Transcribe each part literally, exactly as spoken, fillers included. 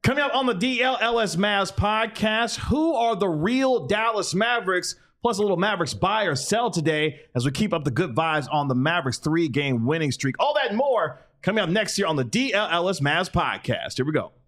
Coming up on the D L L S Mavs podcast, who are the real Dallas Mavericks? Plus a little Mavericks buy or sell today as we keep up the good vibes on the Mavericks three-game winning streak. All that and more coming up next year on the D L L S Mavs podcast. Here we go.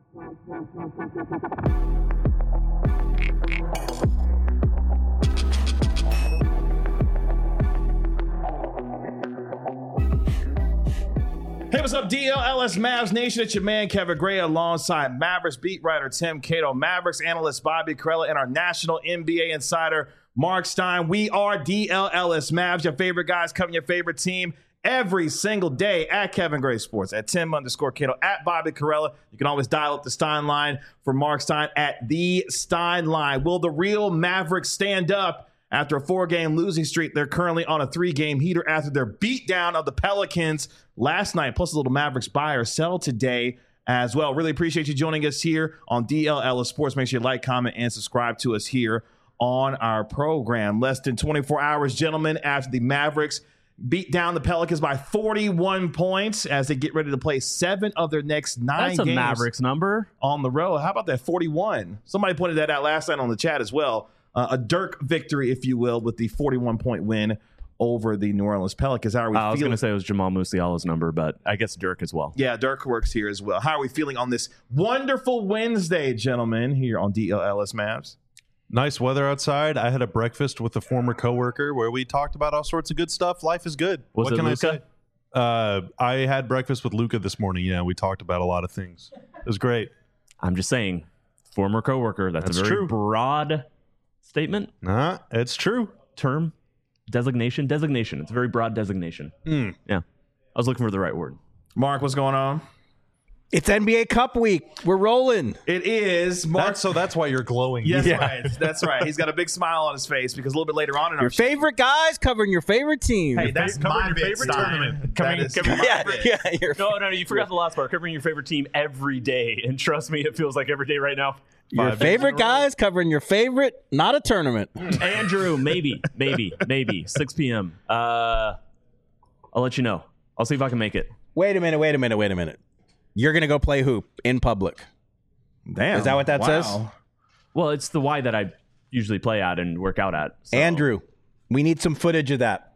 Hey, what's up, D L L S Mavs Nation? It's your man, Kevin Gray, alongside Mavericks beat writer Tim Cato, Mavericks analyst Bobby Carella, and our national N B A insider, Mark Stein. We are D L L S Mavs, your favorite guys covering your favorite team every single day at Kevin Gray Sports, at Tim underscore Cato, at Bobby Carella. You can always dial up the Stein line for Mark Stein at the Stein line. Will the real Mavericks stand up after a four-game losing streak? They're currently on a three-game heater after their beatdown of the Pelicans last night, plus a little Mavericks buy or sell today as well. Really appreciate you joining us here on D L L S Sports. Make sure you like, comment, and subscribe to us here on our program. Less than twenty-four hours, gentlemen, after the Mavericks beat down the Pelicans by forty-one points as they get ready to play seven of their next nine That's a games Mavericks number on the road. How about that forty-one? Somebody pointed that out last night on the chat as well. Uh, a Dirk victory, if you will, with the forty-one point win over the New Orleans Pelicans. How are we uh, I was feeling? going to say it was Jamal Musiala's number, but I guess Dirk as well. Yeah, Dirk works here as well. How are we feeling on this wonderful Wednesday, gentlemen, here on D L L S Mavs? Nice weather outside. I had a breakfast with a former coworker where we talked about all sorts of good stuff. Life is good. Was what it can Luka? I say? Uh, I had breakfast with Luca this morning. Yeah, we talked about a lot of things. It was great. I'm just saying, former coworker. That's, That's a very true. broad statement, Nah, it's true. term, designation, designation. It's a very broad designation. Mm. Yeah, I was looking for the right word. Mark, what's going on? It's N B A Cup week. We're rolling. It is Mark. That's, so that's why you're glowing. Yes, Yeah. right. That's right. He's got a big smile on his face because a little bit later on in Your our show. favorite guys covering your favorite team. Hey, that's Covering my your bit, favorite Stein. tournament. That Covering- is covering- my yeah, bit. yeah. You're, No, no, you forgot the last part. Covering your favorite team every day, and trust me, it feels like every day right now. your Five days favorite in a row. guys covering your favorite, not a tournament. Andrew, maybe, maybe, maybe six p.m. Uh, I'll let you know. I'll see if I can make it. Wait a minute, wait a minute, wait a minute. You're going to go play hoop in public. Damn. Is that what that Wow. says? Well, it's the Y that I usually play at and work out at. so- Andrew, we need some footage of that.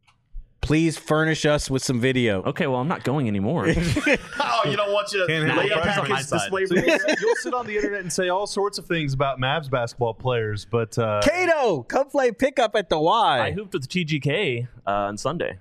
Please furnish us with some video. Okay, well, I'm not going anymore. Oh, you don't want you to Can't lay handle up pressure on package my side. display So rules? you'll, you'll sit on the internet and say all sorts of things about Mavs basketball players, but uh, Kato, come play pickup at the I Y. hooped with T G K uh, on Sunday,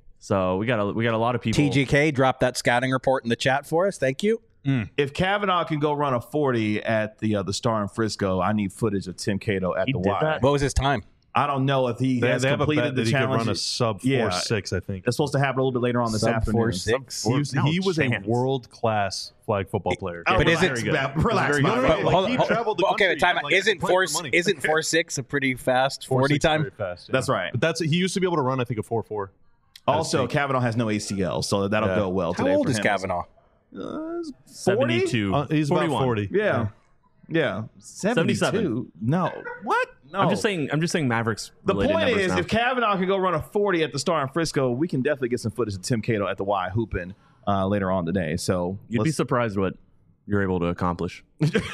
so we got a we got a lot of people. T G K, drop that scouting report in the chat for us. Thank you. If Kavanaugh can go run a forty at the uh, the Star in Frisco, I need footage of Tim Cato at He the did Y. that? What was his time? I don't know if he they, has they have a completed bet the that he could challenge. run a sub Yeah. four six. I think. It's supposed to happen a little bit later on this Sub afternoon. four six? He was, No he was a chance. world class flag football player. Oh, But is relax, it- Matt, relax, very Matt. good. No, no, no, But like, hold- he hold- traveled the but okay, country, time like, out. Isn't playing four for money. isn't four six a pretty fast Four forty six time? very fast, yeah. That's right. But that's he used to be able to run. I think a four four. Also, Kavanaugh has no A C L, so that'll Yeah. go well How today. old for is him. Kavanaugh? Uh, forty? seventy-two. Uh, he's forty-one. about forty. Yeah. Yeah. seventy-two? seventy-seven. No. What? No. I'm just saying. I'm just saying Mavericks. The related point numbers is, now. if Kavanaugh can go run a forty at the Star in Frisco, we can definitely get some footage of Tim Cato at the Y hooping uh, later on today. So you'd be let's- surprised what you're able to accomplish.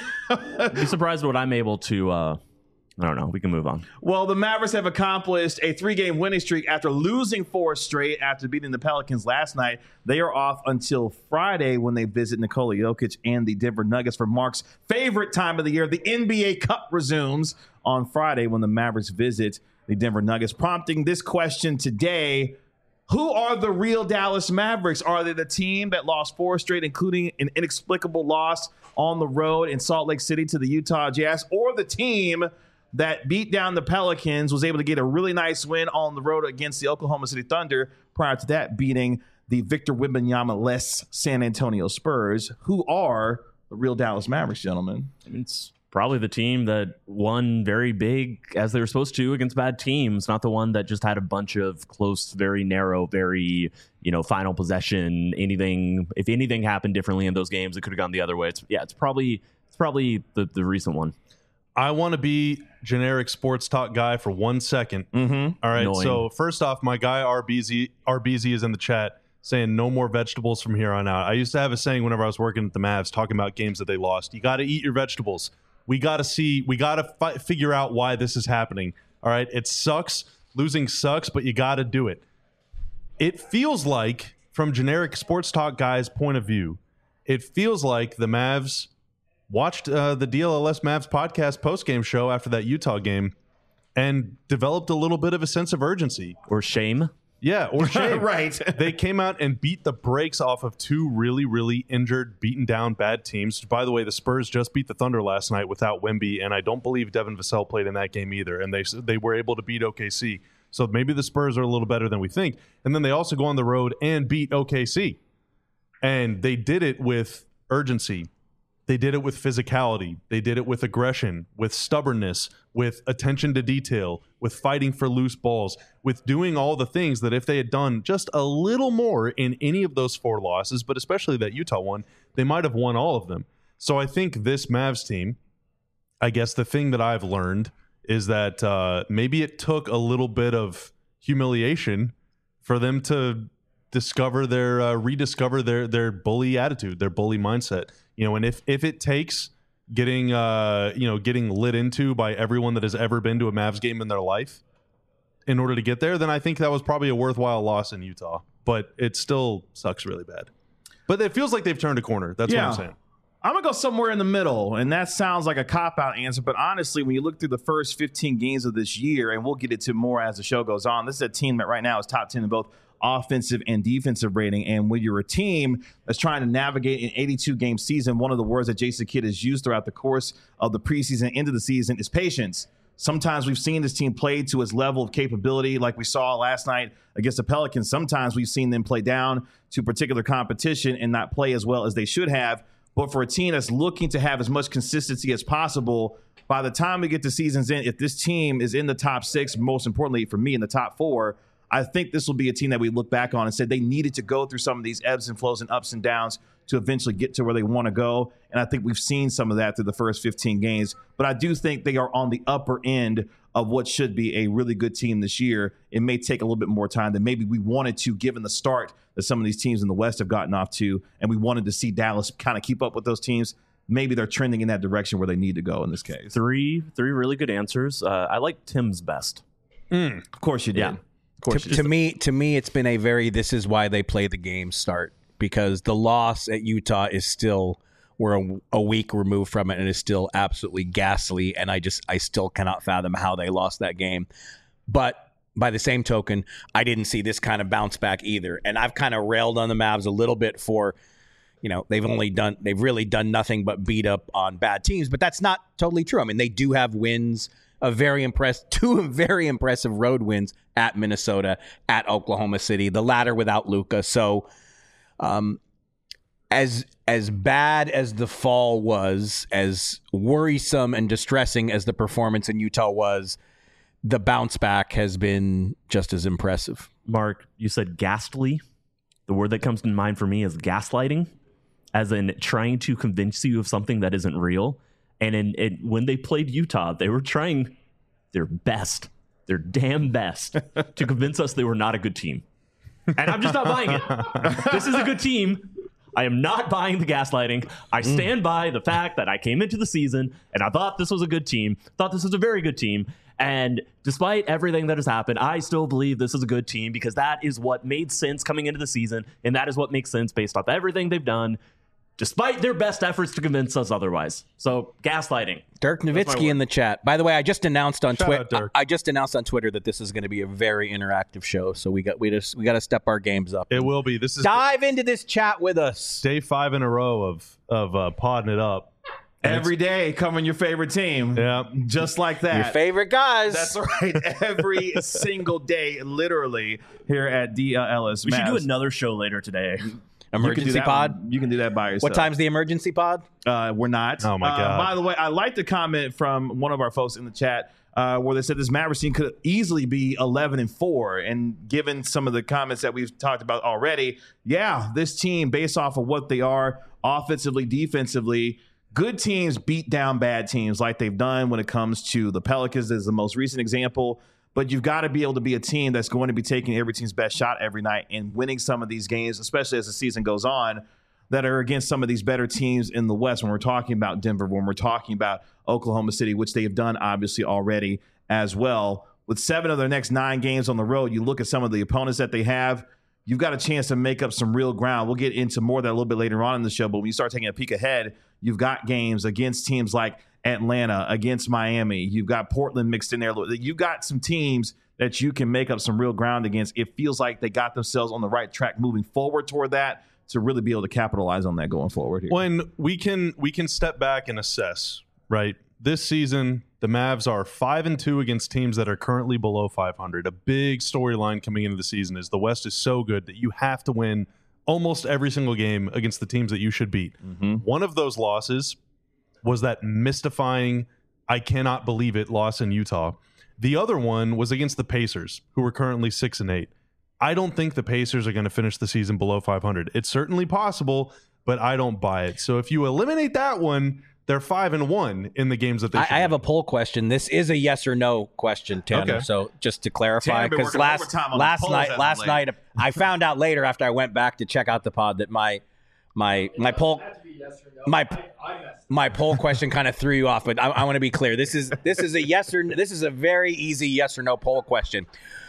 You'd be surprised what I'm able to. Uh, I don't know. We can move on. Well, the Mavericks have accomplished a three-game winning streak after losing four straight after beating the Pelicans last night. They are off until Friday when they visit Nikola Jokic and the Denver Nuggets for Mark's favorite time of the year. The N B A Cup resumes on Friday when the Mavericks visit the Denver Nuggets, prompting this question today. Who are the real Dallas Mavericks? Are they the team that lost four straight, including an inexplicable loss on the road in Salt Lake City to the Utah Jazz, or the team that beat down the Pelicans, was able to get a really nice win on the road against the Oklahoma City Thunder, prior to that beating the Victor Wembanyama-less San Antonio Spurs? Who are the real Dallas Mavericks, gentlemen? I mean, it's probably the team that won very big as they were supposed to against bad teams, not the one that just had a bunch of close, very narrow, very, you know, final possession. Anything, if anything happened differently in those games, it could have gone the other way. It's yeah, it's probably it's probably the, the recent one. I want to be generic sports talk guy for one second. Mm-hmm. All right. Annoying. So first off, my guy R B Z R B Z is in the chat. saying no more vegetables from here on out. I used to have a saying whenever I was working at the Mavs, talking about games that they lost. You got to eat your vegetables. We got to see, we got to fi- figure out why this is happening. All right. It sucks. Losing sucks, but you got to do it. It feels like, from generic sports talk guys' point of view, it feels like the Mavs watched uh, the D L L S Mavs podcast post-game show after that Utah game and developed a little bit of a sense of urgency. Or shame. Yeah, or shame. Right. They came out and beat the brakes off of two really, really injured, beaten down bad teams. By the way, the Spurs just beat the Thunder last night without Wemby, and I don't believe Devin Vassell played in that game either, and they they were able to beat O K C. So maybe the Spurs are a little better than we think. And then they also go on the road and beat O K C. And they did it with urgency. They did it with physicality. They did it with aggression, with stubbornness, with attention to detail, with fighting for loose balls, with doing all the things that if they had done just a little more in any of those four losses, but especially that Utah one, they might have won all of them. So I think this Mavs team, I guess the thing that I've learned is that uh, maybe it took a little bit of humiliation for them to discover their, uh, rediscover their their bully attitude, their bully mindset. You know, and if if it takes getting uh, you know getting lit into by everyone that has ever been to a Mavs game in their life in order to get there, then I think that was probably a worthwhile loss in Utah. But it still sucks really bad. But it feels like they've turned a corner. That's Yeah. what I'm saying. I'm going to go somewhere in the middle, and that sounds like a cop-out answer, but honestly, when you look through the first fifteen games of this year, and we'll get into more as the show goes on, this is a team that right now is top ten in both offensive and defensive rating, and when you're a team that's trying to navigate an eighty-two game season, one of the words that Jason Kidd has used throughout the course of the preseason into the season is patience. Sometimes we've seen this team play to its level of capability, like we saw last night against the Pelicans. Sometimes we've seen them play down to particular competition and not play as well as they should have. But for a team that's looking to have as much consistency as possible, by the time we get to season's end, if this team is in the top six, most importantly for me in the top four, I think this will be a team that we look back on and say they needed to go through some of these ebbs and flows and ups and downs to eventually get to where they want to go. And I think we've seen some of that through the first fifteen games. But I do think they are on the upper end of what should be a really good team this year. It may take a little bit more time than maybe we wanted to, given the start that some of these teams in the West have gotten off to. And we wanted to see Dallas kind of keep up with those teams. Maybe they're trending in that direction where they need to go in this case. Three, three really good answers. Uh, I like Tim's best. Mm, of course you did. Yeah. Of course To, you to did. me, to me, it's been a very this is why they play the game start, because the loss at Utah is still we're a, a week removed from it and is still absolutely ghastly, and I just I still cannot fathom how they lost that game. But by the same token, I didn't see this kind of bounce back either, and I've kind of railed on the Mavs a little bit for, you know, they've only done they've really done nothing but beat up on bad teams, but that's not totally true. I mean, they do have wins. A very impressed, two very impressive road wins at Minnesota, at Oklahoma City, the latter without Luka. So, um, as as bad as the fall was, as worrisome and distressing as the performance in Utah was, the bounce back has been just as impressive. Mark, you said ghastly. The word that comes to mind for me is gaslighting, as in trying to convince you of something that isn't real. And in, in when they played Utah, they were trying their best, their damn best, to convince us they were not a good team. And I'm just not buying it. This is a good team. I am not buying the gaslighting. I stand mm. by the fact that I came into the season and I thought this was a good team, thought this was a very good team. And despite everything that has happened, I still believe this is a good team because that is what made sense coming into the season. And that is what makes sense based off everything they've done, despite their best efforts to convince us otherwise. So, gaslighting. Dirk Nowitzki in the chat. By the way, I just announced on Twitter. I, I just announced on Twitter that this is going to be a very interactive show. So we got we just we got to step our games up. It will be. This is dive into this chat with us. Day five in a row of of uh, podding it up. And every day covering your favorite team. Yeah, just like that. Your favorite guys. That's right. Every single day, literally here at D L L S. We Mavs. should do another show later today. Emergency you pod? One. You can do that by yourself. What time's the emergency pod? Uh, we're not. Oh, my God. Uh, by the way, I like the comment from one of our folks in the chat uh, where they said this Mavericks team could easily be eleven and four. And given some of the comments that we've talked about already, yeah, this team, based off of what they are offensively, defensively, good teams beat down bad teams like they've done when it comes to the Pelicans is the most recent example. but you've got to be able to be a team that's going to be taking every team's best shot every night and winning some of these games, especially as the season goes on, that are against some of these better teams in the West. When we're talking about Denver, when we're talking about Oklahoma City, which they have done obviously already as well. With seven of their next nine games on the road, you look at some of the opponents that they have, you've got a chance to make up some real ground. We'll get into more of that a little bit later on in the show, but when you start taking a peek ahead, you've got games against teams like Atlanta, against Miami. You've got Portland mixed in there. You've got some teams that you can make up some real ground against. It feels like they got themselves on the right track moving forward toward that to really be able to capitalize on that going forward here. When we can we can step back and assess, right? This season, the Mavs are five and two against teams that are currently below five hundred. A big storyline coming into the season is the West is so good that you have to win almost every single game against the teams that you should beat. Mm-hmm. One of those losses was that mystifying, I cannot believe it, loss in Utah. The other one was against the Pacers, who are currently six and eight. I don't think the Pacers are going to finish the season below five hundred. It's certainly possible, but I don't buy it. So if you eliminate that one, they're five and one in the games that they. I, I have a poll question. This is a yes or no question, Tanner. Okay. So just to clarify, because last last night, last night, I found out later after I went back to check out the pod that my my my poll my my poll question kind of threw you off. But I, I want to be clear. This is this is a yes or this is a very easy yes or no poll question.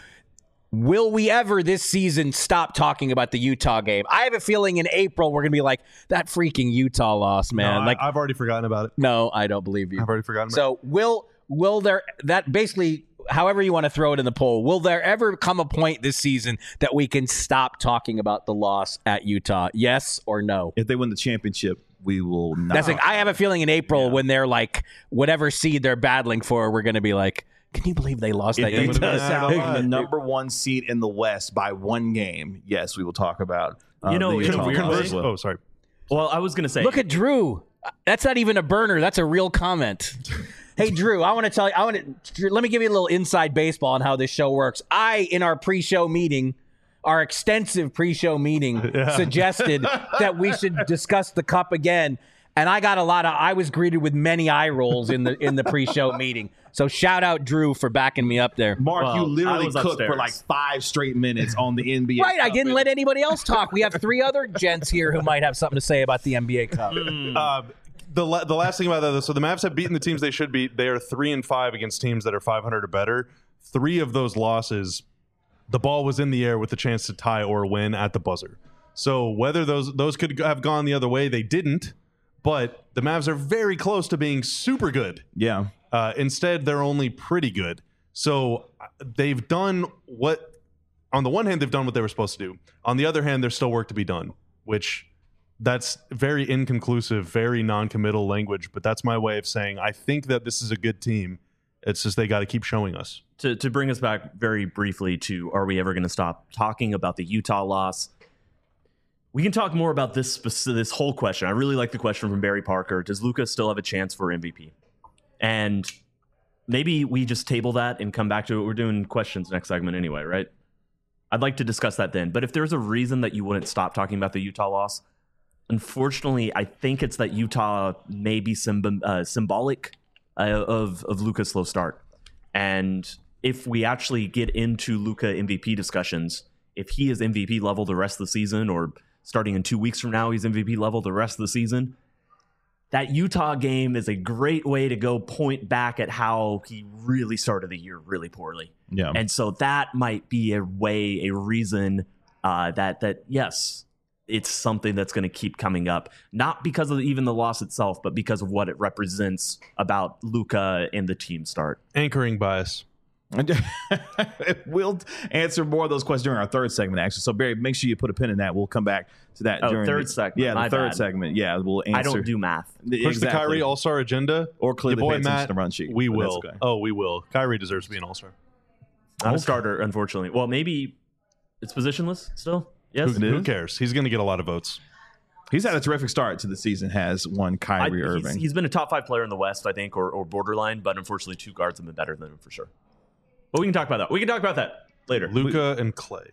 Will we ever this season stop talking about the Utah game? I have a feeling in April we're going to be like, that freaking Utah loss, man. No, like I, I've already forgotten about it. No, I don't believe you. I've already forgotten about so, it. So will will there that basically however you want to throw it in the poll, will there ever come a point this season that we can stop talking about the loss at Utah? Yes or no? If they win the championship, we will not. That's like, I have a feeling in April yeah. when they're like whatever seed they're battling for, we're going to be like, can you believe they lost that game? Utah? The number one seed in the West by one game. Yes, we will talk about. Uh, you know, the in converse, oh, sorry. Well, I was going to say, look at Drew. That's not even a burner. That's a real comment. Hey, Drew, I want to tell you. I want to let me give you a little inside baseball on how this show works. I, in our pre-show meeting, our extensive pre-show meeting, yeah. suggested that we should discuss the cup again. And I got a lot of, I was greeted with many eye rolls in the in the pre-show meeting. So shout out Drew for backing me up there. Mark, well, you literally cooked upstairs. for like five straight minutes on the N B A Right, Cup. I didn't let anybody else talk. We have three other gents here who might have something to say about the N B A Cup. Mm. Uh, the la- the last thing about that, so the Mavs have beaten the teams they should beat. They are three and five against teams that are five hundred or better. Three of those losses, the ball was in the air with the chance to tie or win at the buzzer. So whether those those could have gone the other way, they didn't. But the Mavs are very close to being super good. Yeah. Uh, instead, they're only pretty good. So they've done what, on the one hand, they've done what they were supposed to do. On the other hand, there's still work to be done, which that's very inconclusive, very non-committal language. But that's my way of saying I think that this is a good team. It's just they got to keep showing us. To, to bring us back very briefly to, are we ever going to stop talking about the Utah loss? We can talk more about this this whole question. I really like the question from Barry Parker. Does Luka still have a chance for M V P? And maybe we just table that and come back to it. We're doing questions next segment anyway, right? I'd like to discuss that then. But if there's a reason that you wouldn't stop talking about the Utah loss, unfortunately, I think it's that Utah may be symb- uh, symbolic uh, of, of Luka's slow start. And if we actually get into Luka M V P discussions, if he is M V P level the rest of the season, or starting in two weeks from now, he's M V P level the rest of the season, that Utah game is a great way to go point back at how he really started the year really poorly. Yeah. And so that might be a way, a reason uh, that, that yes, it's something that's going to keep coming up, not because of even the loss itself, but because of what it represents about Luka and the team start. Anchoring bias. We'll answer more of those questions during our third segment, actually. So, Barry, make sure you put a pin in that. We'll come back to that. Oh, during third the, segment. Yeah, the My third bad. segment. Yeah, we'll answer. I don't do math. Push exactly. the Kyrie All-Star agenda. Or clearly Your boy pay attention Matt, to the run sheet. we But will. that's okay. Oh, we will. Kyrie deserves to be an All-Star. Not Okay. a starter, unfortunately. Well, maybe it's positionless still. Yes. Who, who cares? He's going to get a lot of votes. He's had a terrific start to the season, has one Kyrie I, Irving. He's, he's been a top five player in the West, I think, or, or borderline, but unfortunately two guards have been better than him for sure. But we can talk about that. We can talk about that later. Luka and Clay.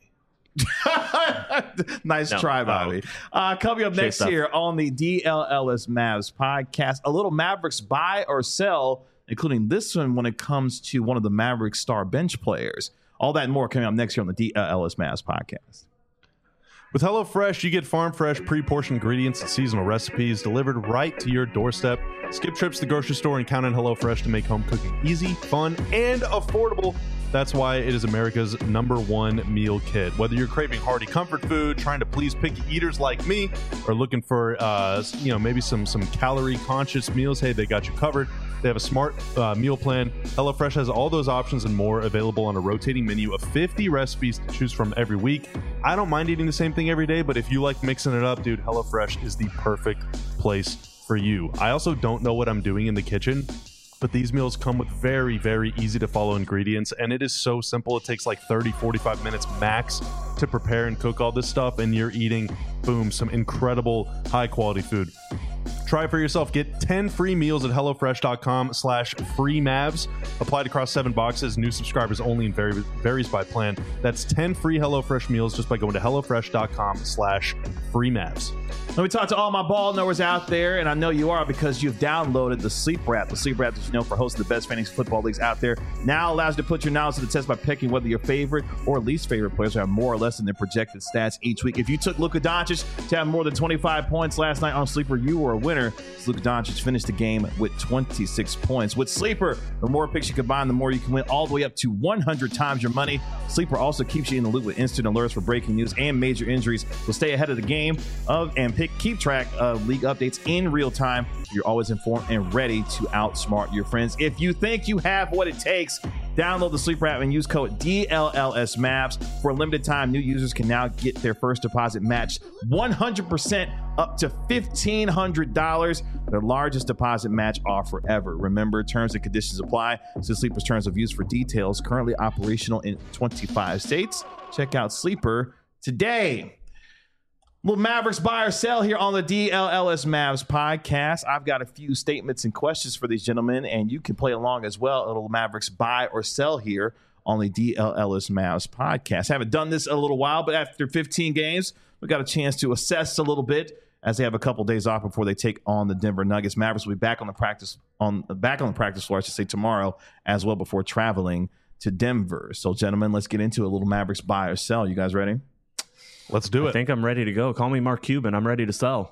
Nice No. try, Bobby. Uh, coming up Shea next stuff. here on the D L L S Mavs podcast, a little Mavericks buy or sell including this one when it comes to one of the Mavericks star bench players. All that and more coming up next year on the D L L S Mavs podcast. With HelloFresh, you get farm fresh, pre-portioned ingredients and seasonal recipes delivered right to your doorstep. Skip trips to the grocery store and count on HelloFresh to make home cooking easy, fun, and affordable. That's why it is America's number one meal kit. Whether you're craving hearty comfort food, trying to please picky eaters like me, or looking for, uh, you know, maybe some some calorie-conscious meals, hey, they got you covered. They have a smart uh, meal plan. HelloFresh has all those options and more available on a rotating menu of fifty recipes to choose from every week. I don't mind eating the same thing every day, but if you like mixing it up, dude, HelloFresh is the perfect place for you. I also don't know what I'm doing in the kitchen, but these meals come with very, very easy to follow ingredients, and it is so simple. It takes like thirty, forty-five minutes max to prepare and cook all this stuff, and you're eating, boom, some incredible high-quality food. Try it for yourself. Get ten free meals at HelloFresh.com slash free Mavs. Applied across seven boxes. New subscribers only and vary, varies by plan. That's ten free HelloFresh meals just by going to HelloFresh.com slash free Mavs. Let me talk to all my ball knowers out there, and I know you are because you've downloaded the Sleeper app. The Sleeper app that you know for hosting the best fantasy football leagues out there now allows you to put your knowledge to the test by picking whether your favorite or least favorite players have more or less than their projected stats each week. If you took Luka Doncic to have more than twenty-five points last night on Sleeper, you were a winner. Luka Doncic finished the game with twenty-six points. With Sleeper, the more picks you combine, the more you can win, all the way up to one hundred times your money. Sleeper also keeps you in the loop with instant alerts for breaking news and major injuries. So stay ahead of the game of and pick keep track of league updates in real time. You're always informed and ready to outsmart your friends. If you think you have what it takes, download the Sleeper app and use code D L L S Mavs. For a limited time, new users can now get their first deposit matched one hundred percent up to fifteen hundred dollars, their largest deposit match offer ever. Remember, terms and conditions apply. See Sleeper's terms of use for details. Currently operational in twenty-five states. Check out Sleeper today. Little Mavericks buy or sell here on the D L L S Mavs podcast. I've got a few statements and questions for these gentlemen, and you can play along as well. A little Mavericks buy or sell here on the D L L S Mavs podcast. Haven't done this a little while, but after fifteen games, we got a chance to assess a little bit as they have a couple days off before they take on the Denver Nuggets. Mavericks will be back on the practice on back on the practice floor, I should say, tomorrow as well before traveling to Denver. So, gentlemen, let's get into a little Mavericks buy or sell. You guys ready? Let's do it. I think I'm ready to go. Call me Mark Cuban. I'm ready to sell.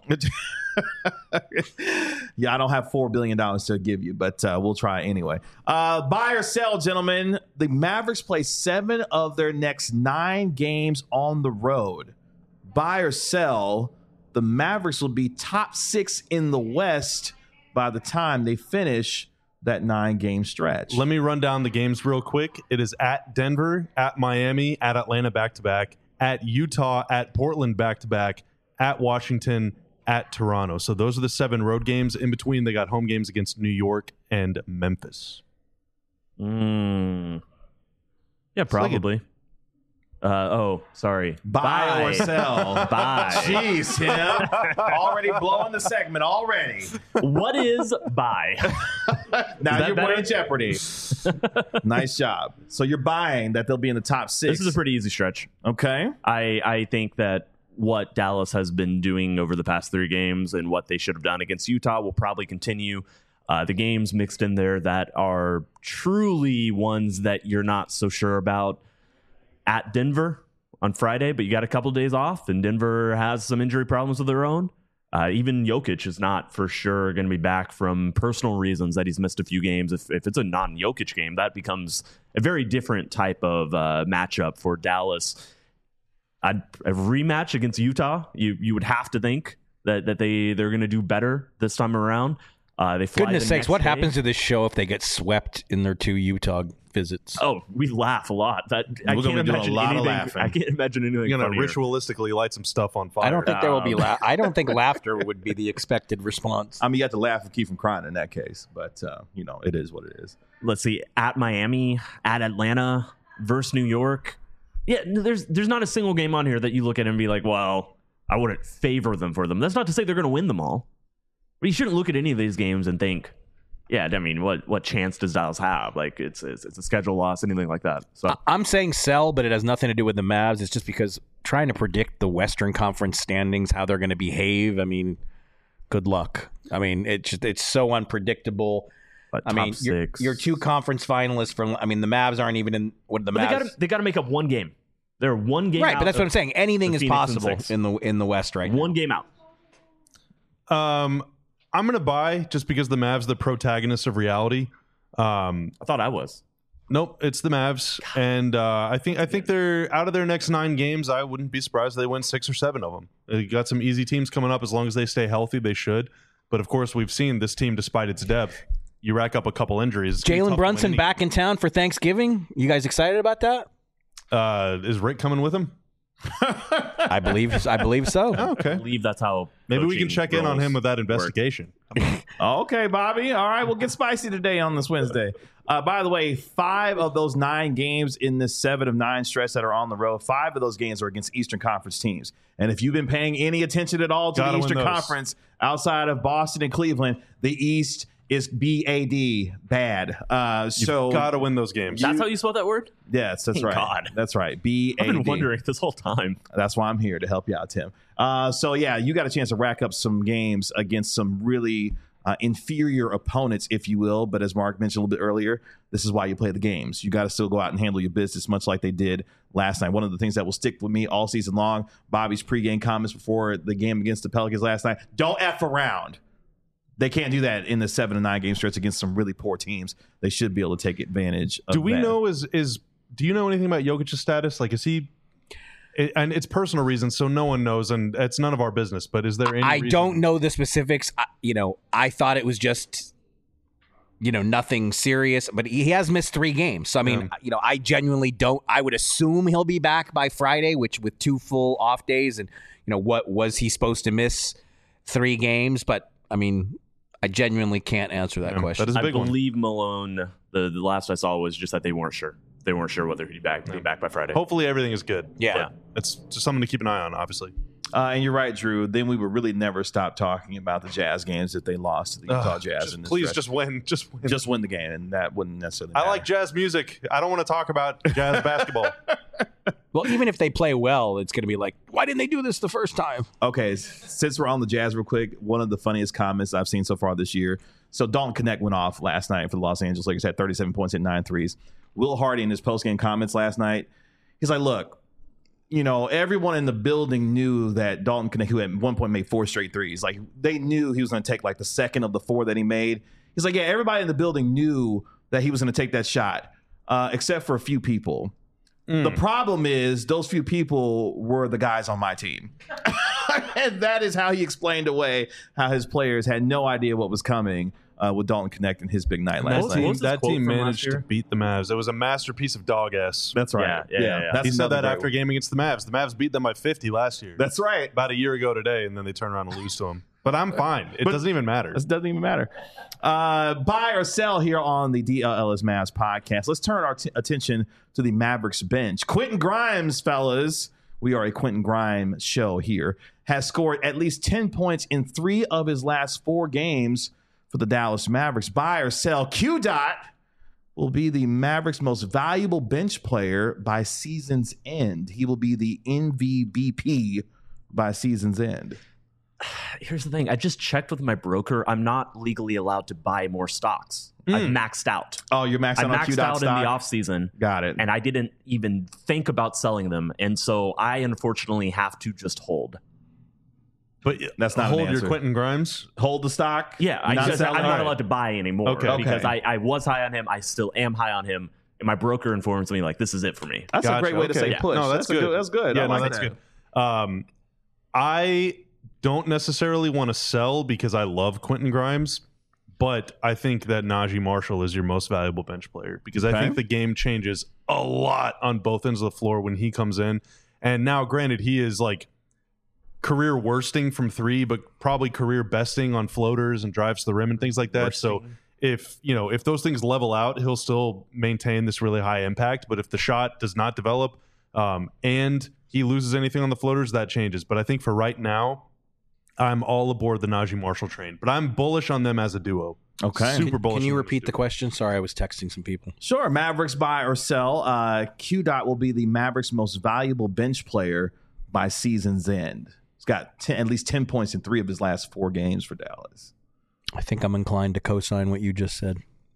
Yeah, I don't have four billion dollars to give you, but uh, we'll try anyway. Uh, buy or sell, gentlemen. The Mavericks play seven of their next nine games on the road. Buy or sell, the Mavericks will be top six in the West by the time they finish that nine-game stretch. Let me run down the games real quick. It is at Denver, at Miami, at Atlanta back-to-back, at Utah, at Portland back-to-back, at Washington, at Toronto. So those are the seven road games. In between, they got home games against New York and Memphis. Mm. Yeah, probably. Uh, oh, sorry. Buy, Buy or sell. Buy. Jeez, Tim. Already blowing the segment already. What is buy? Now you're better? playing Jeopardy. Nice job. So you're buying that they'll be in the top six. This is a pretty easy stretch. Okay. I, I think that what Dallas has been doing over the past three games and what they should have done against Utah will probably continue. Uh, the games mixed in there that are truly ones that you're not so sure about. At Denver on Friday, but you got a couple of days off, and Denver has some injury problems of their own. Uh, even Jokic is not for sure going to be back from personal reasons that he's missed a few games. If, if it's a non-Jokic game, that becomes a very different type of uh, matchup for Dallas. I'd, a rematch against Utah, you you would have to think that, that they, they're going to do better this time around. Uh, they fly Goodness the sakes, next what day. happens to this show if they get swept in their two Utah visits? Oh, we laugh a lot. That I We're can't gonna be doing imagine a lot of anything. laughing. I can't imagine anything. You're going to funnier. ritualistically light some stuff on fire. I don't think there will be Um, la- I don't think laughter would be the expected response. I mean, you have to laugh and keep from crying in that case, but, uh, you know, it is what it is. Let's see, at Miami, at Atlanta, versus New York. Yeah, there's there's not a single game on here that you look at and be like, well, I wouldn't favor them for them. That's not to say they're going to win them all. But you shouldn't look at any of these games and think, yeah, I mean, what what chance does Dallas have? Like, it's it's, it's a schedule loss, anything like that. So I- I'm saying sell, but it has nothing to do with the Mavs. It's just because trying to predict the Western Conference standings, how they're going to behave. I mean, good luck. I mean, it's just, it's so unpredictable. But I top mean, you're, six. you're two conference finalists from. I mean, the Mavs aren't even in. What the But Mavs? they got they got to make up one game. They're one game right, out but that's of what I'm saying. Anything the is Phoenix and possible six. in the in the West right One now. game out. Um, I'm gonna buy just because the Mavs are the protagonists of reality. Um, I thought I was. nope, it's the Mavs, and uh, I think I think they're out of their next nine games. I wouldn't be surprised if they win six or seven of them. They got some easy teams coming up. As long as they stay healthy, they should. But of course, we've seen this team, despite its depth, you rack up a couple injuries. It's gonna be tough Jalen to Brunson win back in town for Thanksgiving. You guys excited about that? any- Uh, is Rick coming with him? I believe. I believe so. Oh, I okay. believe that's how. Maybe we can coaching check in on roles him with that work. investigation. Okay, Bobby. All right, we'll get spicy today on this Wednesday. Uh, by the way, five of those nine games in this seven of nine stretch that are on the road, five of those games are against Eastern Conference teams. And if you've been paying any attention at all to Gotta the win Eastern those. Conference outside of Boston and Cleveland, the East is B A D, bad. Uh, so, Got to win those games. That's how you spell that word? yes, that's Thank right. God. That's right. B A D. I've been wondering this whole time. That's why I'm here to help you out, Tim. Uh, so, yeah, you got a chance to rack up some games against some really uh, inferior opponents, if you will. But as Mark mentioned a little bit earlier, this is why you play the games. You got to still go out and handle your business, much like they did last night. One of the things that will stick with me all season long, Bobby's pregame comments before the game against the Pelicans last night, don't F around. They can't do that in the seven and nine game stretch against some really poor teams. They should be able to take advantage of Do we that. know is is do you know anything about Jokic's status? Like, is he? It, and it's personal reasons, so no one knows, and it's none of our business. But is there any? I reason- don't know the specifics. I, you know, I thought it was just, you know, nothing serious. But he has missed three games. So I mean, Yeah. you know, I genuinely don't. I would assume he'll be back by Friday, which with two full off days. And you know, what was he supposed to miss three games? But I mean, I genuinely can't answer that Yeah, question. that is a I big one. believe Malone. The, the last I saw was just that they weren't sure. They weren't sure whether he'd be back, be back by Friday. Hopefully, everything is good. yeah. Yeah. It's just something to keep an eye on. Obviously, Uh, and you're right, Drew. Then we would really never stop talking about the Jazz games if they lost to the Utah Ugh, Jazz. just- in this please stretch. just win. Just win. just win the game, and that wouldn't necessarily. I matter. like jazz music. I don't want to talk about jazz basketball. Well, even if they play well, it's going to be like, why didn't they do this the first time? Okay, s- since we're on the Jazz, real quick, one of the funniest comments I've seen so far this year. So Dalton Connect went off last night for the Los Angeles Lakers, had thirty-seven points, hit nine threes. Will Hardy in his postgame comments last night, he's like, "Look, you know, everyone in the building knew that Dalton Connect, who at one point made four straight threes, like they knew he was going to take like the second of the four that he made. He's like, yeah, everybody in the building knew that he was going to take that shot, uh, except for a few people." The problem is those few people were the guys on my team. And that is how he explained away how his players had no idea what was coming uh, with Dalton Connect and his big night That last What night. team, was his that quote team from last managed to year? beat the Mavs. It was a masterpiece of dog ass. That's right. Yeah, yeah, yeah, yeah. That's he said another that great after a one. game against the Mavs. The Mavs beat them by fifty last year. That's right. about a year ago today, and then they turn around and lose to them. But I'm fine. It But- doesn't even matter. This doesn't even matter. Uh, buy or sell here on the D L L S Mavs podcast. Let's turn our t- attention to the Mavericks bench. Quentin Grimes, fellas, we are a Quentin Grimes show here, has scored at least ten points in three of his last four games for the Dallas Mavericks. Buy or sell, Q Dot will be the Mavericks' most valuable bench player by season's end. He will be the M V P by season's end. Here's the thing. I just checked with my broker. I'm not legally allowed to buy more stocks. I've maxed out. Oh, you're maxed I out on Q maxed Dot out stock? in the offseason. Got it. And I didn't even think about selling them. And so I unfortunately have to just hold. But That's not an hold your answer. Quentin Grimes. Hold the stock. Yeah, I Not just, I'm selling? not All right. allowed to buy anymore Okay. because Okay. I, I was high on him. I still am high on him. And my broker informs me, like, this is it for me. That's a Gotcha. great way to Okay. say Yeah. push. No, that's a good. That's good. Yeah, I no, like that's that. good. Um, I don't necessarily want to sell because I love Quentin Grimes, but I think that Najee Marshall is your most valuable bench player because Okay. I think the game changes a lot on both ends of the floor when he comes in. And now, granted, he is like career worsting from three, but probably career besting on floaters and drives to the rim and things like that. So if you know if those things level out, he'll still maintain this really high impact. But if the shot does not develop um, and he loses anything on the floaters, that changes. But I think for right now, I'm all aboard the Najee Marshall train. But I'm bullish on them as a duo. Okay. Super bullish. Can you on them repeat as a the duo. question? Sorry, I was texting some people. Sure. Mavericks buy or sell. Uh, Q Dot will be the Mavericks' most valuable bench player by season's end. He's got ten, at least ten points in three of his last four games for Dallas. I think I'm inclined to co-sign what you just said.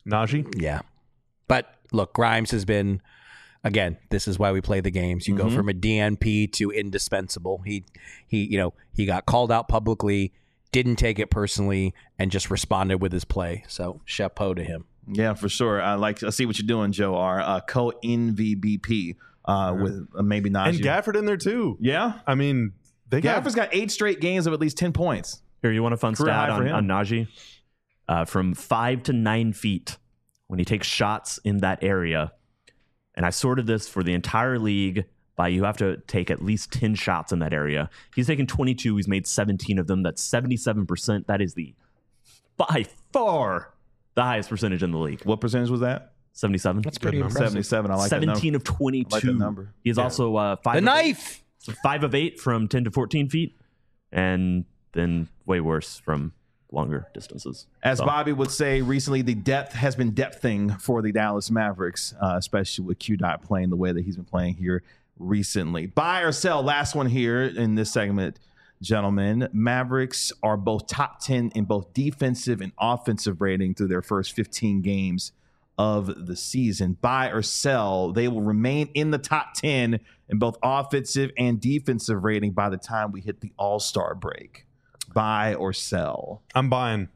Najee? Yeah. But look, Grimes has been, again, this is why we play the games. You Mm-hmm. go from a D N P to indispensable. He, he, you know, he got called out publicly, didn't take it personally, and just responded with his play. So chapeau to him. Yeah, for sure. I like. I see what you're doing, Joe. Our uh, co-N V B P uh, with uh, maybe Najee. And Gafford in there too. Yeah, I mean, they got Gafford's got eight straight games of at least ten points. Here, you want a fun Career stat high for on, him. on Najee? Uh, from five to nine feet when he takes shots in that area. And I sorted this for the entire league by you have to take at least ten shots in that area. He's taken twenty-two. He's made seventeen of them. That's seventy-seven percent. That is the by far the highest percentage in the league. What percentage was that? seventy-seven. That's pretty number. impressive. seventy-seven. I like seventeen that of twenty-two. I like that number. He is also uh, five. The of knife. Eight, so five of eight from ten to fourteen feet, and then way worse from longer distances. As So, Bobby would say recently, the depth has been depthing for the Dallas Mavericks, uh, especially with Q Dot playing the way that he's been playing here recently. Buy or sell? Last one here in this segment, gentlemen. Mavericks are both top ten in both defensive and offensive rating through their first fifteen games of the season. Buy or sell? They will remain in the top ten in both offensive and defensive rating by the time we hit the All-Star break. Buy or sell? I'm buying.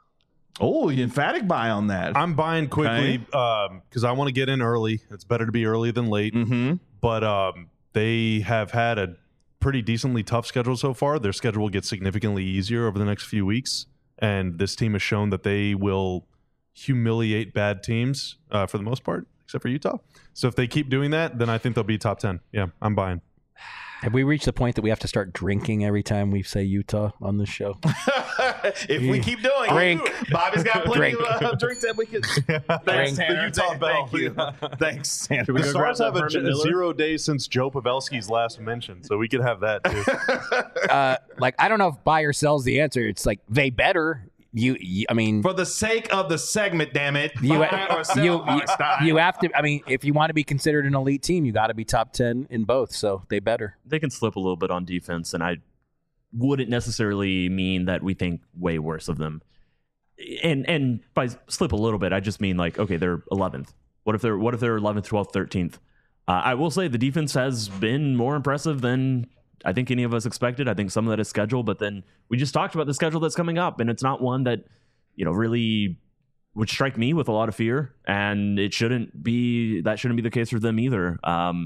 Oh, you emphatic buy on that. I'm buying quickly because I want to get in early. It's better to be early than late. Mm-hmm. But um, they have had a pretty decently tough schedule so far. Their schedule will get significantly easier over the next few weeks. And this team has shown that they will humiliate bad teams uh, for the most part, except for Utah. So if they keep doing that, then I think they'll be top ten. Yeah, I'm buying. Have we reached the point that we have to start drinking every time we say Utah on this show? If we keep doing Drink. it, Bobby's got plenty Drink. of uh, drinks that we can. Thanks, Drink. Tanner. The Utah Thank- Bell. Thank you. Thanks, Tanner. The go grab Stars that have a, Herman a Miller? zero days since Joe Pavelski's last mention, so we could have that too. uh, like, I don't know if buy or sell's the answer. It's like, they better. You, you I mean, For the sake of the segment, damn it. you, buy or sell, you, Mark Stein. you have to, I mean, if you want to be considered an elite team, you got to be top ten in both. So they better. they can slip a little bit on defense, and I wouldn't necessarily mean that we think way worse of them. And and by slip a little bit, I just mean like, okay, they're eleventh. What if they're what if they're eleventh, twelfth, thirteenth? Uh, I will say the defense has been more impressive than I think any of us expected. I think some of that is schedule, but then we just talked about the schedule that's coming up, and it's not one that, you know, really would strike me with a lot of fear, and it shouldn't be that shouldn't be the case for them either. Um,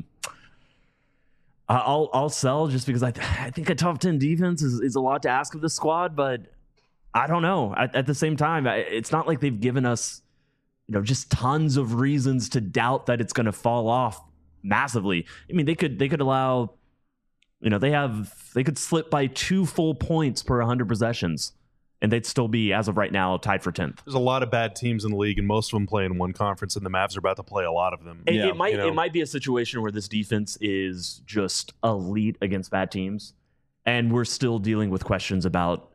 I'll I'll sell just because I th- I think a top ten defense is, is a lot to ask of this squad, but I don't know. At, at the same time, I, it's not like they've given us, you know, just tons of reasons to doubt that it's going to fall off massively. I mean, they could they could allow, you know, they have they could slip by two full points per one hundred possessions, and they'd still be, as of right now, tied for tenth. There's a lot of bad teams in the league, and most of them play in one conference, and the Mavs are about to play a lot of them. It, Yeah, it might you know. it might be a situation where this defense is just elite against bad teams, and we're still dealing with questions about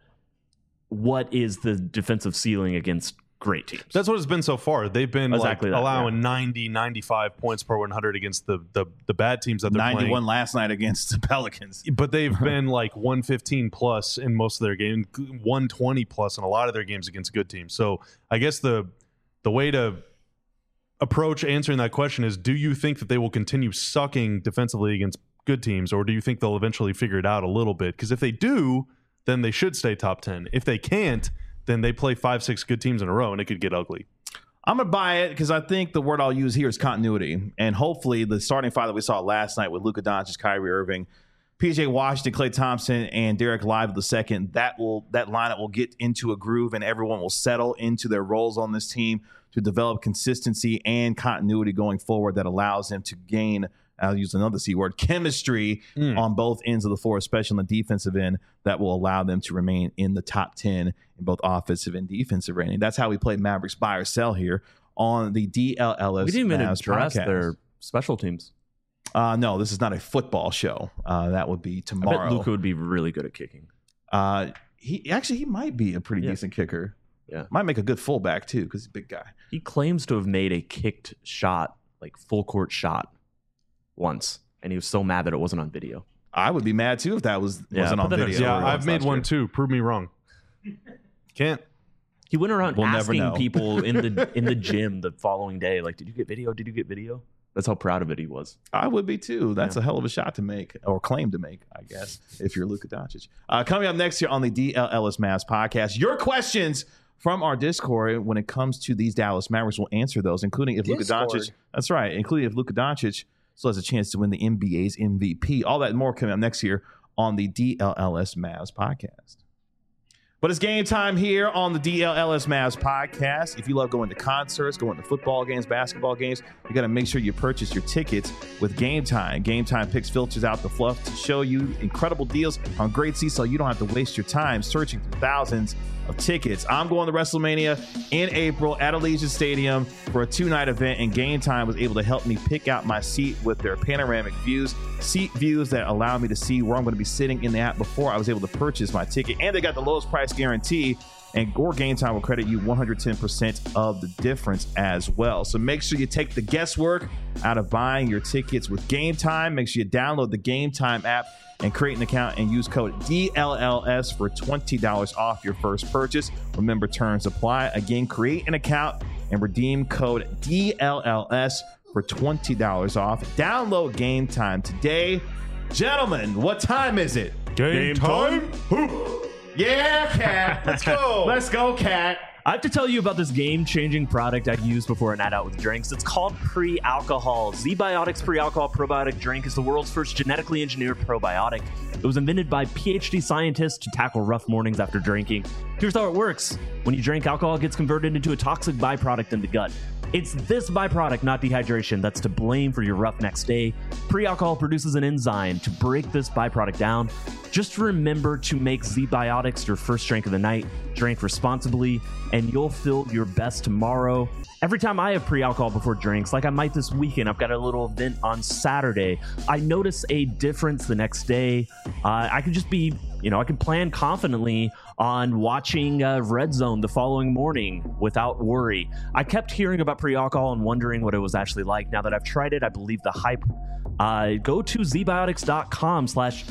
what is the defensive ceiling against great teams. That's what it's been so far. They've been Exactly like that, allowing yeah. ninety, ninety-five points per one hundred against the, the, the bad teams that they're ninety-one playing. last night against the Pelicans. But they've been like one fifteen plus in most of their games, one twenty plus in a lot of their games against good teams. So I guess the the way to approach answering that question is, do you think that they will continue sucking defensively against good teams, or do you think they'll eventually figure it out a little bit? Because if they do, then they should stay top ten. If they can't, then they play five, six good teams in a row, and it could get ugly. I'm going to buy it because I think the word I'll use here is continuity. And hopefully the starting five that we saw last night with Luka Doncic, Kyrie Irving, P J Washington, Klay Thompson, and Derek Lively the second, that will that lineup will get into a groove, and everyone will settle into their roles on this team to develop consistency and continuity going forward that allows them to gain, I'll use another C word, chemistry Mm. on both ends of the floor, especially on the defensive end, that will allow them to remain in the top ten in both offensive and defensive rating. That's how we play Mavericks buy or sell here on the D L L S. we didn't even Mavs address podcast. their special teams. Uh, no, this is not a football show. Uh, that would be I bet tomorrow. Luka would be really good at kicking. Uh, he actually he might be a pretty Yeah. decent kicker. Yeah. Might make a good fullback too because he's a big guy. He claims to have made a kicked shot, like full court shot, once, and he was so mad that it wasn't on video. I would be mad too if that was Yeah, wasn't put on that in video. a Yeah, story I've once made last one year. too. Prove me wrong. Can't. He went around We'll never asking know. people in the in the gym the following day, like, "Did you get video? Did you get video?" That's how proud of it he was. I would be too. That's Yeah. a hell of a shot to make, or claim to make, I guess, if you're Luka Doncic. Uh, coming up next here on the D L Ellis Mavs podcast, your questions from our Discord when it comes to these Dallas Mavericks. We'll answer those, including if Luka Discord. Doncic. That's right, including if Luka Doncic still has a chance to win the N B A's M V P. All that and more coming up next year on the D L L S Mavs podcast. But it's game time here on the D L L S Mavs podcast. If you love going to concerts, going to football games, basketball games, you got to make sure you purchase your tickets with Game Time. Game Time picks filters out the fluff to show you incredible deals on great seats so you don't have to waste your time searching through thousands of tickets. I'm going to WrestleMania in April at Allegiant Stadium for a two-night event, and Game Time was able to help me pick out my seat with their panoramic views, seat views that allow me to see where I'm going to be sitting in the app before I was able to purchase my ticket. And they got the lowest price guarantee, and Gore Game Time will credit you one hundred ten percent of the difference as well. So make sure you take the guesswork out of buying your tickets with Game Time. Make sure you download the Game Time app and create an account and use code D L L S for twenty dollars off your first purchase. Remember, terms apply. Again, create an account and redeem code D L L S for twenty dollars off. Download Game Time today. Gentlemen, what time is it? Game, time. Yeah, Cat. Let's go. Let's go, Cat. I have to tell you about this game-changing product I use before a night out with drinks. It's called Pre-Alcohol. Z-Biotics Pre-Alcohol Probiotic Drink is the world's first genetically engineered probiotic. It was invented by P H D scientists to tackle rough mornings after drinking. Here's how it works. When you drink, alcohol gets converted into a toxic byproduct in the gut. It's this byproduct, not dehydration, that's to blame for your rough next day. Pre-alcohol produces an enzyme to break this byproduct down. Just remember to make Z-Biotics your first drink of the night. Drink responsibly, and you'll feel your best tomorrow. Every time I have pre-alcohol before drinks, like I might this weekend, I've got a little event on Saturday, I notice a difference the next day. Uh, I can just be, you know, I can plan confidently on watching uh, Red Zone the following morning without worry. I kept hearing about pre-alcohol and wondering what it was actually like. Now that I've tried it, I believe the hype. Uh, go to zbiotics.com slash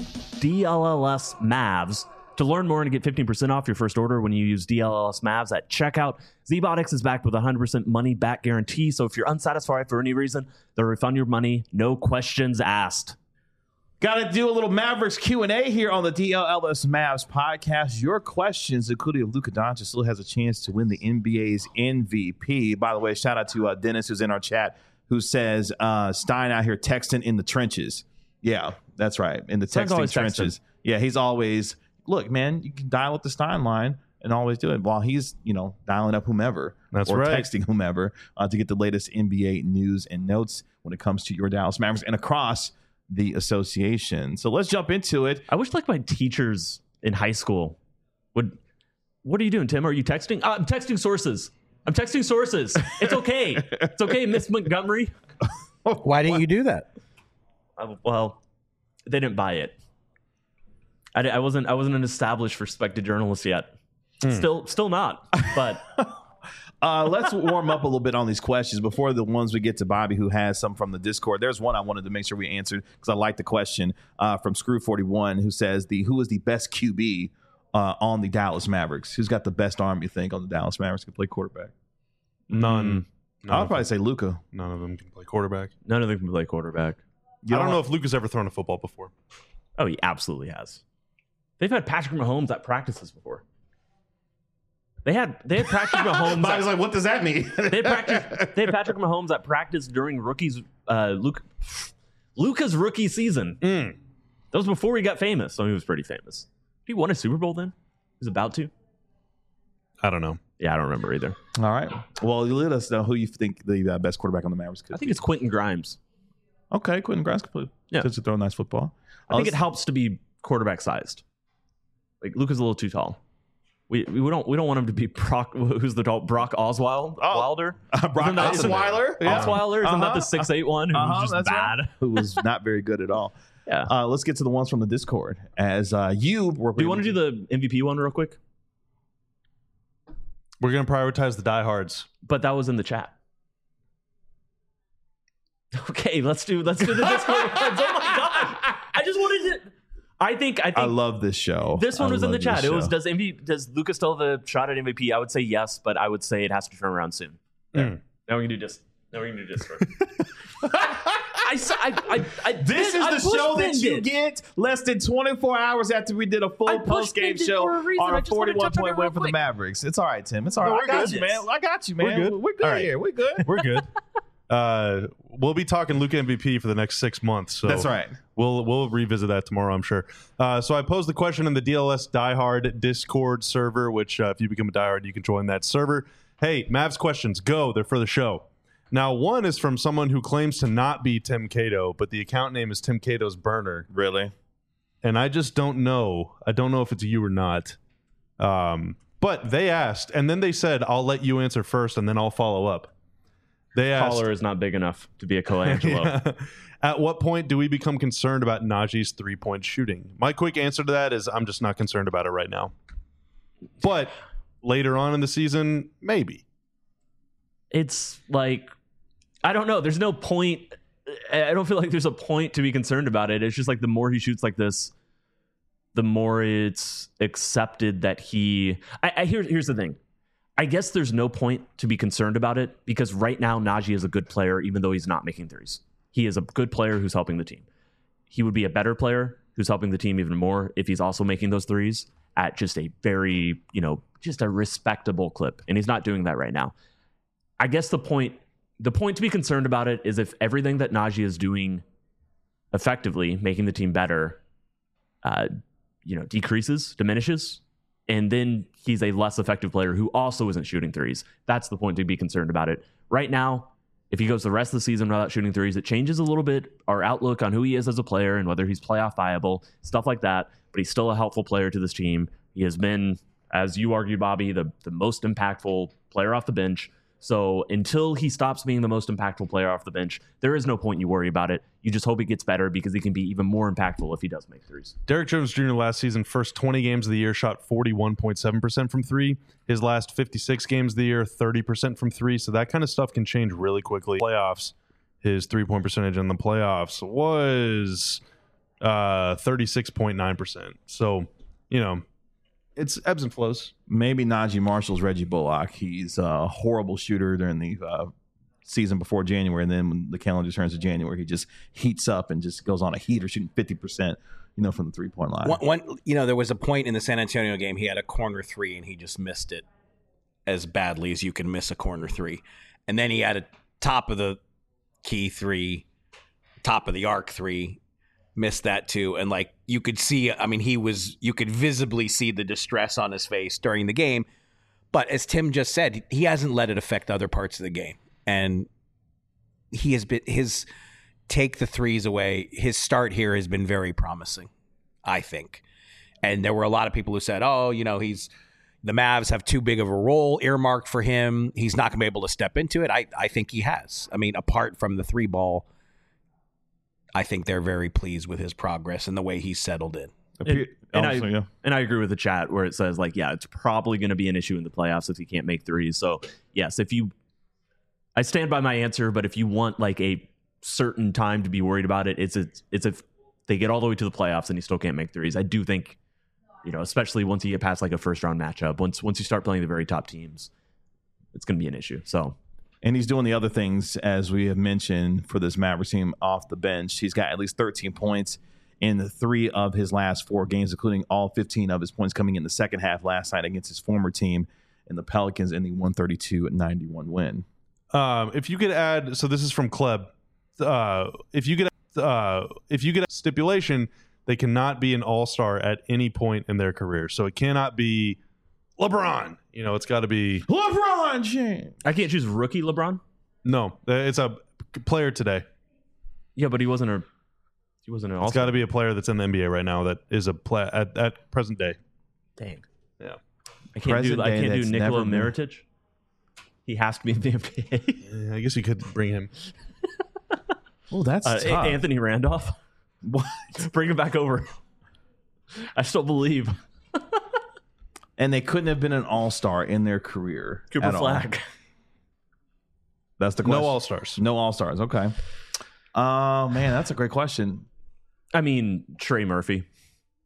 DLLS Mavs to learn more and get fifteen percent off your first order when you use D L L S Mavs at checkout. Z-Biotics is backed with a one hundred percent money back guarantee, so if you're unsatisfied for any reason, they'll refund your money, no questions asked. Got to do a little Mavericks Q and A here on the D L L S Mavs podcast. Your questions, including if Luka Doncic still has a chance to win the N B A's M V P. By the way, shout out to uh, Dennis, who's in our chat, who says uh, Stein out here texting in the trenches. Yeah, that's right, in the Stein's texting always trenches. texting. Yeah, he's always, look, man, you can dial up the Stein line and always do it while he's, you know, dialing up whomever That's or right. texting whomever uh, to get the latest N B A news and notes when it comes to your Dallas Mavericks and across the association. So let's jump into it. I wish like my teachers in high school would, what are you doing, Tim? Are you texting? Uh, I'm texting sources. I'm texting sources. It's okay. It's okay, Miss Montgomery. Why didn't you do that? Uh, well, they didn't buy it. I, I wasn't. I wasn't an established, respected journalist yet. Still, still not. But Uh, let's warm up a little bit on these questions before the ones we get to Bobby, who has some from the Discord. There's one I wanted to make sure we answered because I like the question uh, from Screw forty-one, who says, "The who is the best Q B uh, on the Dallas Mavericks? Who's got the best arm, you think, on the Dallas Mavericks can play quarterback?" None. None I'll of probably them. say Luka. None of them can play quarterback. none of them can play quarterback. You I don't don't- know if Luka's ever thrown a football before. Oh, he absolutely has. They've had Patrick Mahomes at practices before. They had they had Patrick Mahomes. Bobby's at, like, what does that mean? they had practice. They had Patrick Mahomes at practice during rookies. Uh, Luke, Luka's rookie season. Mm. That was before he got famous. So he was pretty famous. He won a Super Bowl then. He was about to. I don't know. Yeah, I don't remember either. All right. Well, you let us know who you think the uh, best quarterback on the Mavericks could I think be. it's Quentin Grimes. Okay, Quentin Grimes could play. Yeah. To throw a nice football. I think it helps to be quarterback sized. Like Luka's a little too tall. We we don't we don't want him to be Brock. Who's the tall? Brock Osweiler? Oh. Wilder. Uh, Brock Isn't that- Osweiler? Yeah. Osweiler, isn't that Uh-huh. the six eight one who Uh-huh, was just that's bad? right. Who was not very good at all. Yeah. Uh, let's get to the ones from the Discord. As uh, you were, Do you want to do the M V P one real quick? We're going to prioritize the diehards. But that was in the chat. Okay, let's do let's do the Discord ones. Oh my gosh! I just wanted to. I think I think I love this show. This one I was in the love chat. this It was show. does M V does Luka still have a shot at M V P? I would say yes, but I would say it has to turn around soon. Mm. Now we can do this. Now we can do this. I, s- I, I, I This I is the push show that pinned you it. get less than twenty-four hours after we did a I full push post game pinned it show for a reason. on I a just wanted to forty-one touch on point it win real for the quick. Mavericks. It's all right, Tim. It's all No, right. we're I got good. you, man. I got you, man. We're good. We're good All right. here. We're good. We're good. Uh, we'll be talking Luka M V P for the next six months. So That's right. We'll we'll revisit that tomorrow, I'm sure. Uh, so I posed the question in the D L S Diehard Discord server, which uh, if you become a diehard, you can join that server. Hey, Mavs questions, go. They're for the show. Now, one is from someone who claims to not be Tim Cato, but the account name is Tim Cato's Burner. Really? And I just don't know. I don't know if it's you or not. Um, but they asked, and then they said, I'll let you answer first, and then I'll follow up. They asked, Collar is not big enough to be a Colangelo. Yeah. At what point do we become concerned about Najee's three-point shooting? My quick answer to that is I'm just not concerned about it right now. But later on in the season, maybe. It's like, I don't know. There's no point. I don't feel like there's a point to be concerned about it. It's just like the more he shoots like this, the more it's accepted that he. I, I here, here's the thing. I guess there's no point to be concerned about it because right now Najee is a good player, even though he's not making threes. He is a good player who's helping the team. He would be a better player who's helping the team even more if he's also making those threes at just a very, you know, just a respectable clip. And he's not doing that right now. I guess the point, the point to be concerned about it is if everything that Najee is doing effectively, making the team better, uh, you know, decreases, diminishes, and then he's a less effective player who also isn't shooting threes. That's the point to be concerned about it. Right now, if he goes the rest of the season without shooting threes, it changes a little bit our outlook on who he is as a player and whether he's playoff viable, stuff like that. But he's still a helpful player to this team. He has been, as you argued, Bobby, the, the most impactful player off the bench. So until he stops being the most impactful player off the bench, there is no point you worry about it. You just hope he gets better because he can be even more impactful if he does make threes. Derrick Jones Junior last season, first twenty games of the year, shot forty-one point seven percent from three. His last fifty-six games of the year, thirty percent from three. So that kind of stuff can change really quickly. Playoffs, his three-point percentage in the playoffs was uh, thirty-six point nine percent. So, you know, it's ebbs and flows. Maybe Najee Marshall's Reggie Bullock. He's a horrible shooter during the uh, season before January, and then when the calendar turns to January, he just heats up and just goes on a heater, shooting fifty percent, you know, from the three-point line. One, one, you know, there was a point in the San Antonio game he had a corner three and he just missed it as badly as you can miss a corner three, and then he had a top of the key three, top of the arc three, missed that too, and like you could see, I mean, he was, you could visibly see the distress on his face during the game. But as Tim just said, he hasn't let it affect other parts of the game, and he has been his. Take the threes away. His start here has been very promising, I think. And there were a lot of people who said, oh, you know, he's the Mavs have too big of a role earmarked for him. He's not going to be able to step into it. I, I think he has. I mean, apart from the three ball, I think they're very pleased with his progress and the way he's settled in. And, and, I, Also, yeah. and I agree with the chat where it says, like, yeah, it's probably going to be an issue in the playoffs if he can't make threes. So, yes, if you, I stand by my answer, but if you want like a certain time to be worried about it, it's it's, it's if they get all the way to the playoffs and he still can't make threes. I do think, you know, especially once you get past like a first round matchup, once once you start playing the very top teams, it's going to be an issue. So, and he's doing the other things, as we have mentioned, for this Mavericks team off the bench. He's got at least thirteen points in the three of his last four games, including all fifteen of his points coming in the second half last night against his former team in the Pelicans in the one thirty-two ninety-one win. Um, if you could add, so this is from Kleb. Uh, if you could, uh, if you get a stipulation, they cannot be an all-star at any point in their career. So it cannot be LeBron. You know, it's got to be LeBron James. I can't choose rookie LeBron. no. It's a player today. Yeah, but he wasn't a he wasn't an It's all-star. got to be a player that's in the N B A right now that is a play at, at present day. Dang. Yeah. I can't Present do I day can't do that's Nikola never been- Mirotic. He has to be in the N B A. Yeah, I guess you could bring him. Oh, that's Uh, tough. Anthony Randolph. What? Bring him back over. I still believe. And they couldn't have been an all-star in their career. Cooper at all. Flag. That's the question. No all-stars. No all-stars. Okay. Oh, man, that's a great question. I mean, Trey Murphy.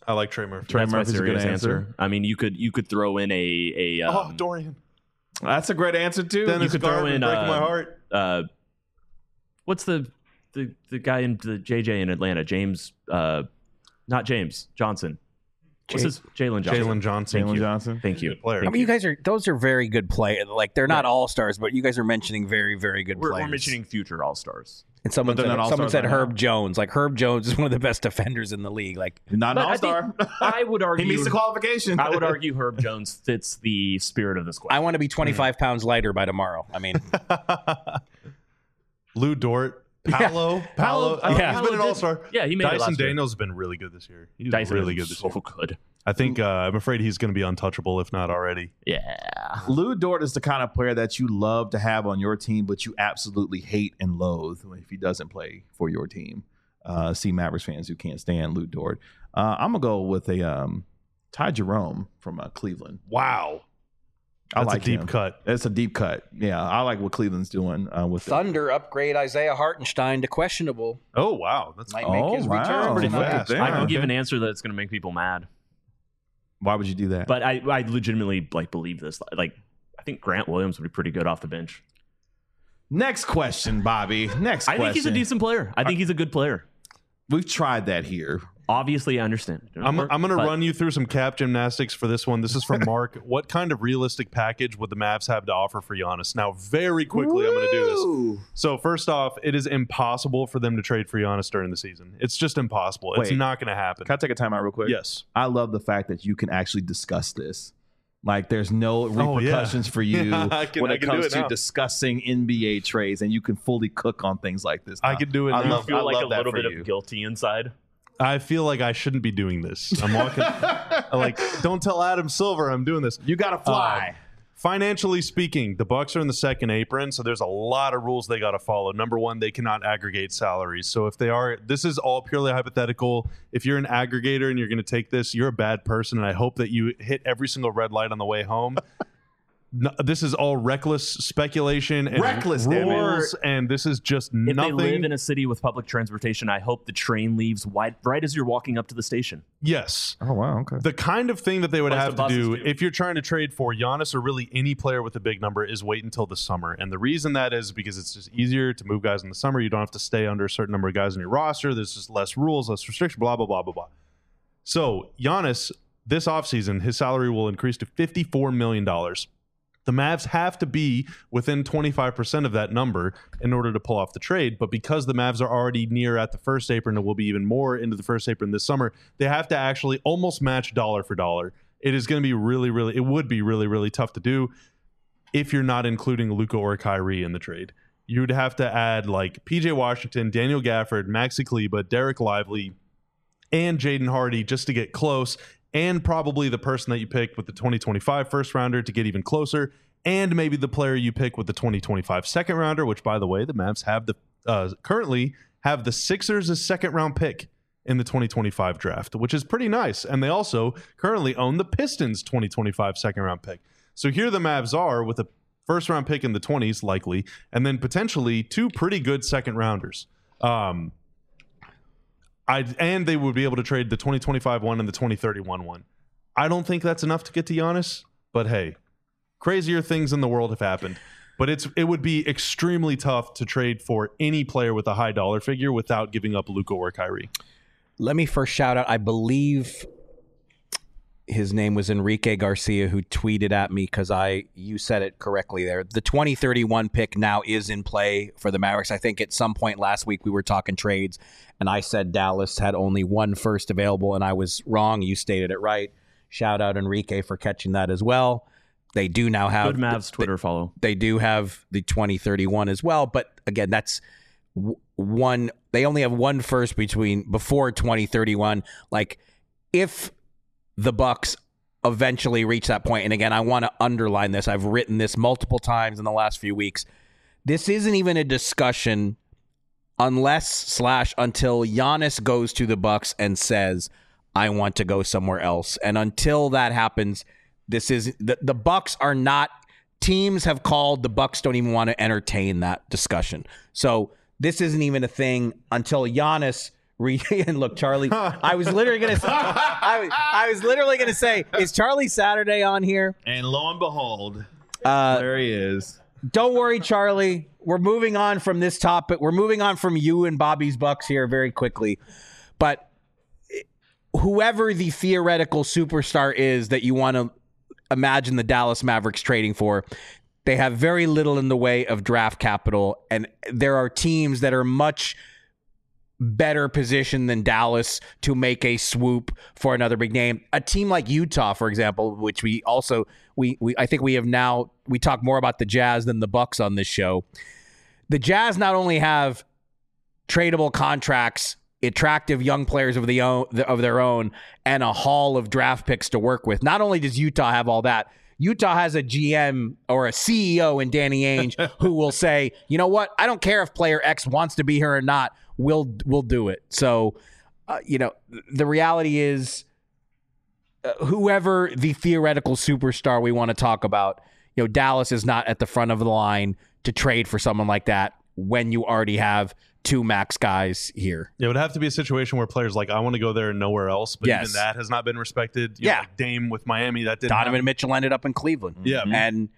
I like Trey Murphy. Trey That's my Murphy's a good serious answer. answer. I mean, you could you could throw in a a um, Oh, Dorian. That's a great answer too. Dennis you could throw Garvin in, breaking uh, my heart. uh, what's the the the guy in the J J in Atlanta? James, uh, not James Johnson. What's J- his Jalen Johnson? Jalen Johnson. Jalen Johnson. Thank you. Good player. Thank I mean, you guys are those are very good play. Like they're not Yeah. all stars, but you guys are mentioning very, very good We're, players. we're mentioning future all stars. And someone But said, they're not someone all-stars said right Herb now. Jones. Like Herb Jones is one of the best defenders in the league. Like Not an But I all star. think- I would argue He meets the qualification. I would argue Herb Jones fits the spirit of this question. I want to be twenty-five pounds lighter by tomorrow. I mean, Lou Dort. Paolo. Paolo- Paolo. I mean, He's Paolo been an did- all-star. yeah, he made it Dyson last year. Daniels has been really good this year. He's Dyson really is good this so year. good. I think uh, I'm afraid he's going to be untouchable, if not already. Yeah. Lou Dort is the kind of player that you love to have on your team, but you absolutely hate and loathe if he doesn't play for your team. Uh, see Mavericks fans who can't stand Lou Dort. Uh, I'm gonna go with a um, Ty Jerome from uh, Cleveland. Wow. I That's like a deep him. cut. It's a deep cut. Yeah, I like what Cleveland's doing uh, with it. Thunder upgrade Isaiah Hartenstein to questionable. Oh, wow. That's Might Oh, make his wow. return Pretty tonight. fast. Damn. I can Okay. give an answer that's going to make people mad, Why would you do that? but I, I legitimately like believe this. Like, I think Grant Williams would be pretty good off the bench. Next question, Bobby. Next I question. think he's a decent player. I think he's a good player. We've tried that here. Obviously, I understand. It I'm, doesn't I'm going to work, but run you through some cap gymnastics for this one. This is from Mark. What kind of realistic package would the Mavs have to offer for Giannis? Now, very quickly, I'm going to do this. So, first off, it is impossible for them to trade for Giannis during the season. It's just impossible. It's Wait. not going to happen. Can I take a time out real quick? Yes. I love the fact that you can actually discuss this. Like, there's no Oh, yeah. repercussions for you Yeah, I can- when I it can do comes it to now. discussing N B A trades, and you can fully cook on things like this. I now. could do it I now. love, feel I like love a that little for bit you. of guilty inside. I feel like I shouldn't be doing this. I'm walking. I'm like, don't tell Adam Silver I'm doing this. You got to fly. Um, Financially speaking, the Bucks are in the second apron, so there's a lot of rules they got to follow. Number one, they cannot aggregate salaries. So if they are, this is all purely hypothetical. If you're an aggregator and you're going to take this, you're a bad person, and I hope that you hit every single red light on the way home. No, this is all reckless speculation and Reckless, damn it. rules, and this is just If nothing. they live in a city with public transportation, I hope the train leaves wide, right as you're walking up to the station. yes. Oh, wow. Okay. The kind of thing that they would Plus have the to buses do do. if you're trying to trade for Giannis or really any player with a big number is wait until the summer. And the reason that is because it's just easier to move guys in the summer. You don't have to stay under a certain number of guys on your roster. There's just less rules, less restriction, blah, blah, blah, blah, blah. So Giannis, this offseason, his salary will increase to fifty-four million dollars. The Mavs have to be within twenty-five percent of that number in order to pull off the trade. But because the Mavs are already near at the first apron and will be even more into the first apron this summer, they have to actually almost match dollar for dollar. It is going to be really, really, it would be really, really tough to do if you're not including Luka or Kyrie in the trade. You would have to add like P J Washington, Daniel Gafford, Maxi Kleba, Derek Lively, and Jaden Hardy just to get close, and probably the person that you picked with the twenty twenty-five first rounder to get even closer, and maybe the player you pick with the twenty twenty-five second rounder, which, by the way, the Mavs have the uh, currently have the Sixers' second round pick in the twenty twenty-five draft, which is pretty nice. And they also currently own the Pistons' twenty twenty-five second round pick. So here the Mavs are with a first round pick in the twenties, likely, and then potentially two pretty good second rounders. Um, I and they would be able to trade the twenty twenty-five one and the twenty thirty-one one. I don't think that's enough to get to Giannis, but hey, crazier things in the world have happened. But it's it would be extremely tough to trade for any player with a high dollar figure without giving up Luka or Kyrie. Let me first shout out. I believe his name was Enrique Garcia, who tweeted at me because I you said it correctly there. The twenty thirty-one pick now is in play for the Mavericks. I think at some point last week we were talking trades, and I said Dallas had only one first available, and I was wrong. You stated it right. Shout out Enrique for catching that as well. They do now have Good Mavs Twitter follow. They do have the twenty thirty-one as well, but again, that's w- one. They only have one first between before twenty thirty-one. Like if the Bucks eventually reach that point, and again, I want to underline this. I've written this multiple times in the last few weeks. This isn't even a discussion unless slash until Giannis goes to the Bucks and says, "I want to go somewhere else." And until that happens, this is the, the Bucks are not. Teams have called. The Bucks don't even want to entertain that discussion. So this isn't even a thing until Giannis Re- and look, Charlie, I was literally going to say, I was, I was literally going to say, is Charlie Saturday on here? And lo and behold, Uh, there he is. Don't worry, Charlie. We're moving on from this topic. We're moving on from you and Bobby's Bucks here very quickly. But whoever the theoretical superstar is that you want to imagine the Dallas Mavericks trading for, they have very little in the way of draft capital. And there are teams that are much better positioned than Dallas to make a swoop for another big name. A team like Utah, for example, which we also we we I think we have now we talk more about the Jazz than the Bucks on this show. The Jazz not only have tradable contracts, attractive young players of the own, of their own, and a haul of draft picks to work with. Not only does Utah have all that, Utah has a G M or a C E O in Danny Ainge who will say, you know what, I don't care if player X wants to be here or not. We'll we'll do it. So, uh, you know, the reality is, uh, whoever the theoretical superstar we want to talk about, you know, Dallas is not at the front of the line to trade for someone like that when you already have two max guys here. It would have to be a situation where players like, I want to go there and nowhere else, but Yes. even that has not been respected. You Yeah. know, like Dame with Miami, that didn't Donovan happen. Mitchell ended up in Cleveland. Yeah. And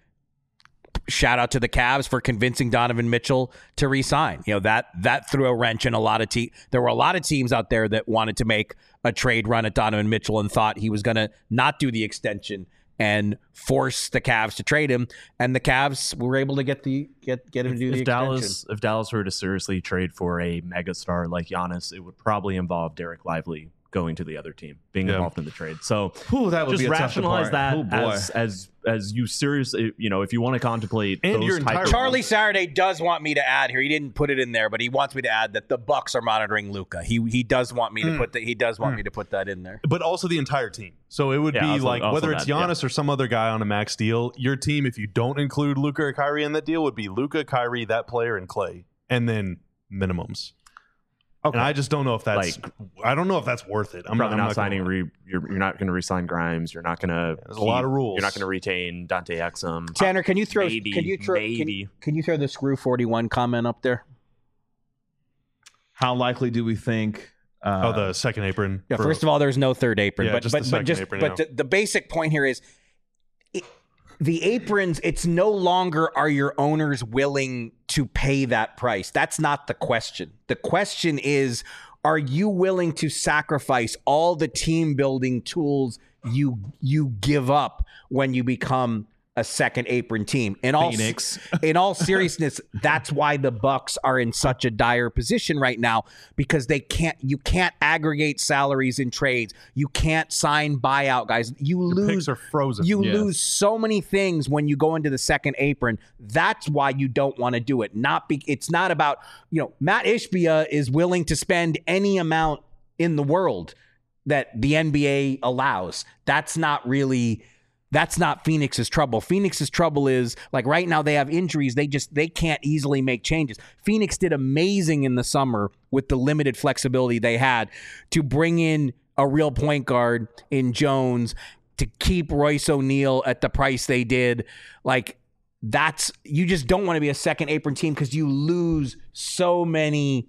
shout out to the Cavs for convincing Donovan Mitchell to re-sign. You know, that that threw a wrench in a lot of teams. There were a lot of teams out there that wanted to make a trade run at Donovan Mitchell and thought he was going to not do the extension and force the Cavs to trade him. And the Cavs were able to get the get get him to do if the Dallas, extension. if Dallas were to seriously trade for a megastar like Giannis, it would probably involve Derek Lively going to the other team, being Yeah. involved in the trade. So Ooh, that would just be a tough rationalize depart. that Oh, boy. as as as you seriously, you know, if you want to contemplate And those your type entire- of- Charlie Saturday does want me to add here. He didn't put it in there, but he wants me to add that the Bucks are monitoring Luka. He he does want me to put that. He does want me to put that in there. But also the entire team. So it would Yeah, be also- like, also whether it's that, yeah. Giannis or some other guy on a max deal, your team, if you don't include Luka or Kyrie in that deal, would be Luka, Kyrie, that player, and Clay. And then minimums. Okay. And I just don't know if that's Like- I don't know if that's worth it. I'm probably I'm not signing. gonna- Re, you're, you're not going to resign Grimes. You're not going to. There's a lot of rules. You're not going to retain Dante Exum. Tanner, can you throw? Maybe, can you throw? Can, maybe. can you throw the screw forty-one comment up there? How likely do we think? Uh, Oh, the second apron. Yeah. for- First of all, there's no third apron, Yeah, but just but the but second just apron, but yeah. the, the basic point here is. It, the aprons, it's no longer are your owners willing to pay that price. That's not the question. The question is, are you willing to sacrifice all the team building tools you you give up when you become a second apron team? In all Phoenix. in all seriousness, that's why the Bucks are in such a dire position right now, because they can't you can't aggregate salaries in trades. You can't sign buyout guys. You Your lose picks are frozen. you Yes. lose so many things when you go into the second apron. That's why you don't want to do it. Not be, it's not about, you know, Matt Ishbia is willing to spend any amount in the world that the N B A allows. That's not really that's not Phoenix's trouble. Phoenix's trouble is, like, right now they have injuries. They just they can't easily make changes. Phoenix did amazing in the summer with the limited flexibility they had to bring in a real point guard in Jones, to keep Royce O'Neal at the price they did. Like, that's, you just don't want to be a second apron team because you lose so many,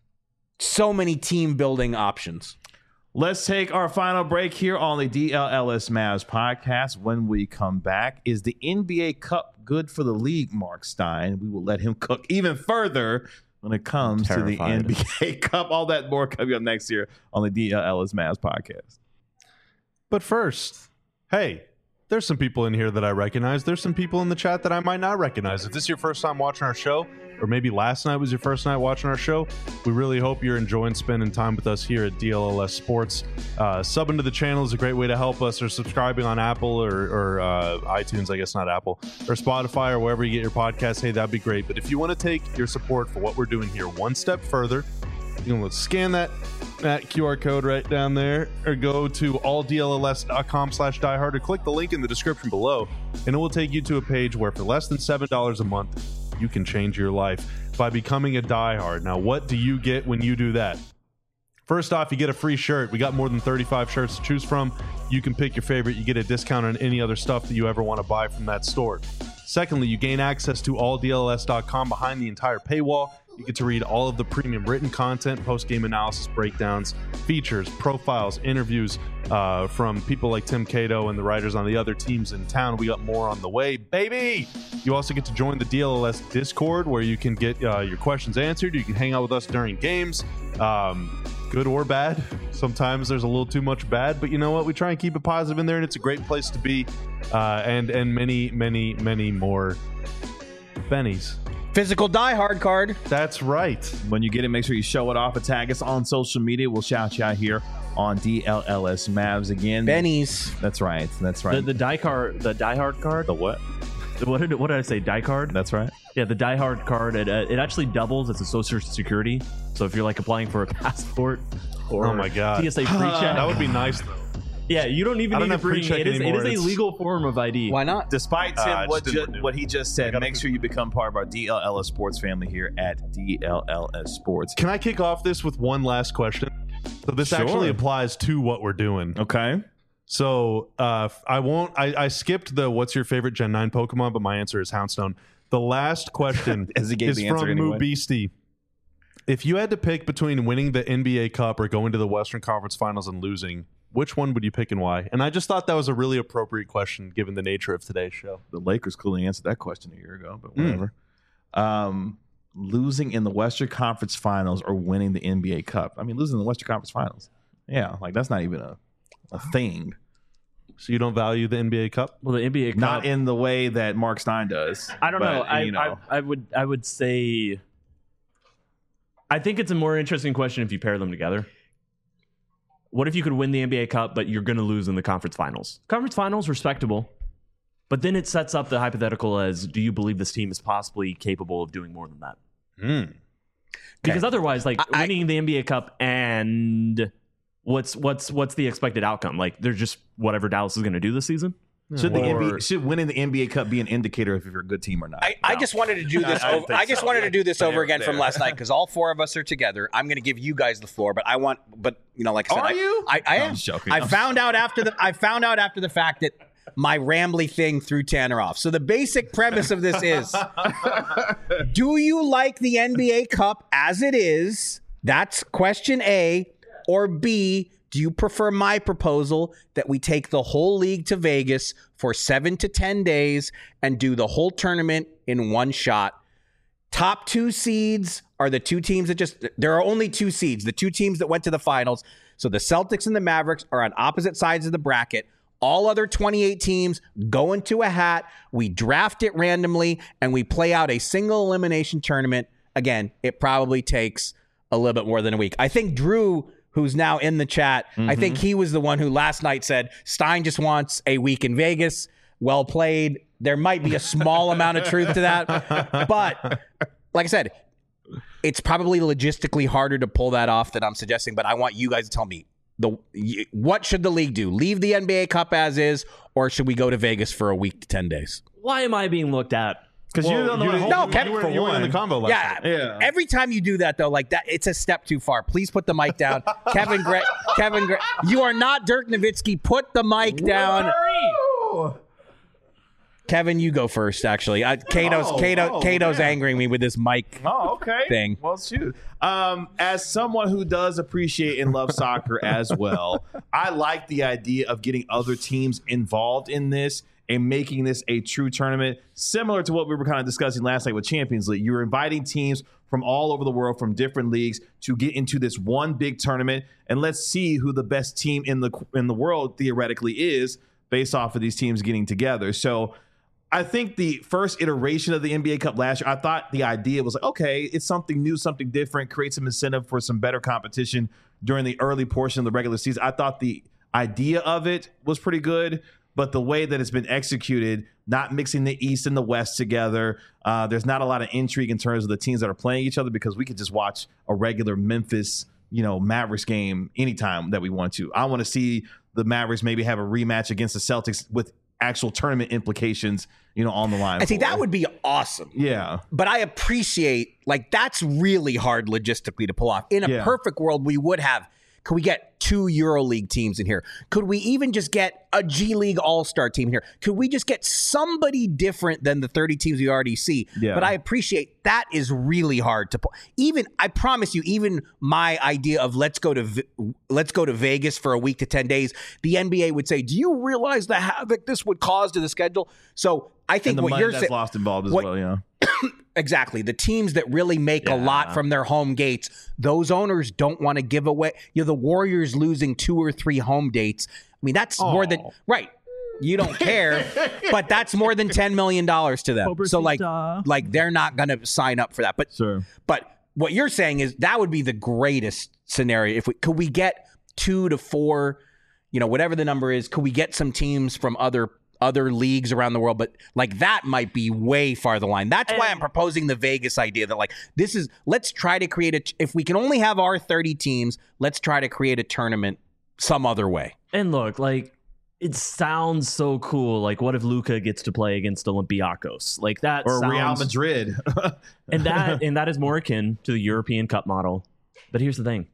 so many team building options. Let's take our final break here on the D L L S Mavs podcast. When we come back, is the N B A Cup good for the league, Mark Stein? We will let him cook even further when it comes to the N B A Cup. All that more coming up next year on the D L L S Mavs podcast. But first, hey, there's some people in here that I recognize. There's some people in the chat that I might not recognize. If this is your first time watching our show, or maybe last night was your first night watching our show, we really hope you're enjoying spending time with us here at D L L S Sports. Uh, subbing to the channel is a great way to help us, or subscribing on Apple or, or uh, iTunes, I guess not Apple, or Spotify, or wherever you get your podcasts. Hey, that'd be great. But if you want to take your support for what we're doing here one step further, you can scan that that Q R code right down there, or go to all D L L S dot com slash diehard, or click the link in the description below, and it will take you to a page where for less than seven dollars a month, you can change your life by becoming a diehard. Now, what do you get when you do that? First off, you get a free shirt. We got more than thirty-five shirts to choose from. You can pick your favorite. You get a discount on any other stuff that you ever want to buy from that store. Secondly, you gain access to all D L L S dot com behind the entire paywall. You get to read all of the premium written content, post-game analysis breakdowns, features, profiles, interviews uh, from people like Tim Cato and the writers on the other teams in town. We got more on the way, baby! You also get to join the D L L S Discord, where you can get uh, your questions answered. You can hang out with us during games, um, good or bad. Sometimes there's a little too much bad, but you know what? We try and keep it positive in there, and it's a great place to be. Uh, and, and many, many, many more bennies. Physical Die Hard card. That's right. When you get it, make sure you show it off and tag us on social media. We'll shout you out here on D L L S Mavs again. Bennies. That's right. That's right. The, the die card, the Die Hard card. The what? What did what did I say? Die card. That's right. Yeah, the Die Hard card. It uh, it actually doubles as a social security. So if you're like applying for a passport or Oh my God. T S A pre-check, That would be nice, though. yeah, you don't even I don't need have to bring pre-check it. Is, it anymore. is a It's- legal form of I D. Why not? Despite Uh, Tim, I what, just ju- didn't renew what he just said, gotta make sure you become part of our D L L S Sports family here at D L L S Sports. Can I kick off this with one last question? So this Sure. actually applies to what we're doing. Okay. So uh, I won't. I, I skipped the "What's your favorite Gen nine Pokemon?" But my answer is Houndstone. The last question As he gave is the answer from anyway. Moo Beastie. If you had to pick between winning the N B A Cup or going to the Western Conference Finals and losing, which one would you pick and why? And I just thought that was a really appropriate question given the nature of today's show. The Lakers clearly answered that question a year ago, but whatever. Um, losing in the Western Conference Finals or winning the N B A Cup. I mean, losing in the Western Conference Finals. Yeah, like that's not even a, a thing. So you don't value the N B A Cup? Well, the N B A Cup, Not in the way that Mark Stein does. I don't but, know. I, you know. I I would I would say. I think it's a more interesting question if you pair them together. What if you could win the N B A Cup, but you're going to lose in the conference finals? Conference finals, respectable. But then it sets up the hypothetical as, do you believe this team is possibly capable of doing more than that? Mm. Because otherwise, like I- winning the N B A Cup and what's what's what's the expected outcome? Like they're just whatever Dallas is going to do this season. Should the Or- N B A, should winning the N B A Cup be an indicator of if you're a good team or not? I, I just wanted to do this. I- I over, think I just so, wanted yeah. to do this Fair, over again from fair. last night because all four of us are together. I'm going to give you guys the floor, but I want, but you know, like I said, Are I, you? I, I No, am. I'm just joking. I I'm found out after the. I found out after the fact that my rambly thing threw Tanner off. So the basic premise of this is: do you like the N B A Cup as it is? That's question A, or B. Do you prefer my proposal that we take the whole league to Vegas for seven to ten days and do the whole tournament in one shot? Top two seeds are the two teams that just, there are only two seeds, the two teams that went to the finals. So the Celtics and the Mavericks are on opposite sides of the bracket. All other twenty-eight teams go into a hat. We draft it randomly and we play out a single elimination tournament. Again, it probably takes a little bit more than a week. I think Drew, who's now in the chat, I think he was the one who last night said Stein just wants a week in Vegas. Well played. There might be a small amount of truth to that. But like I said, it's probably logistically harder to pull that off than I'm suggesting. But I want you guys to tell me, the what should the league do? Leave the N B A Cup as is, or should we go to Vegas for a week to ten days? Why am I being looked at? because you don't know. you, what- No, you, Kevin, you, were, for you were in one. the combo last Yeah, night. Yeah. Every time you do that, though, like that, it's a step too far. Please put the mic down, Kevin. Gre- Kevin, Gre- you are not Dirk Nowitzki. Put the mic down. Kevin, you go first. Actually, I, Kato's Oh, Kato, oh, Kato's man. angering me with this mic. Oh, okay. Thing. Well, shoot. Um, as someone who does appreciate and love soccer as well, I like the idea of getting other teams involved in this and making this a true tournament, similar to what we were kind of discussing last night with Champions League. You're inviting teams from all over the world, from different leagues, to get into this one big tournament, and let's see who the best team in the in the world theoretically is, based off of these teams getting together. So I think the first iteration of the N B A Cup last year, I thought the idea was like, okay, it's something new, something different, create some incentive for some better competition during the early portion of the regular season. I thought the idea of it was pretty good, but the way that it's been executed, not mixing the East and the West together, uh, there's not a lot of intrigue in terms of the teams that are playing each other, because we could just watch a regular Memphis, you know, Mavericks game anytime that we want to. I want to see the Mavericks maybe have a rematch against the Celtics with actual tournament implications, you know, on the line. I think for that it. would be awesome. Yeah. But I appreciate, like, that's really hard logistically to pull off. In a Yeah. perfect world, we would have, Could we get two EuroLeague teams in here? Could we even just get a G League All-Star team here? Could we just get somebody different than the thirty teams we already see? Yeah. But I appreciate that is really hard to pull. Even I promise you, even my idea of let's go to V- let's go to Vegas for a week to ten days, the N B A would say, "Do you realize the havoc this would cause to the schedule?" So I think and the what money you're that's saying, lost involved as what, well, yeah. Exactly. The teams that really make Yeah. a lot from their home gates, those owners don't want to give away. You know, the Warriors losing two or three home dates. I mean, that's more than right. You don't care, but that's more than ten million dollars to them. So like, like they're not going to sign up for that. But Sure. but what you're saying is that would be the greatest scenario. If we could we get two to four, you know, whatever the number is, could we get some teams from other other leagues around the world? But like that might be way far the line. That's why I'm proposing the Vegas idea that like this is let's try to create a if we can only have our thirty teams, let's try to create a tournament some other way. And look, like it sounds so cool. Like, what if Luka gets to play against Olympiacos? Like that, Or sounds, Real Madrid. and that and that is more akin to the European Cup model. But here's the thing: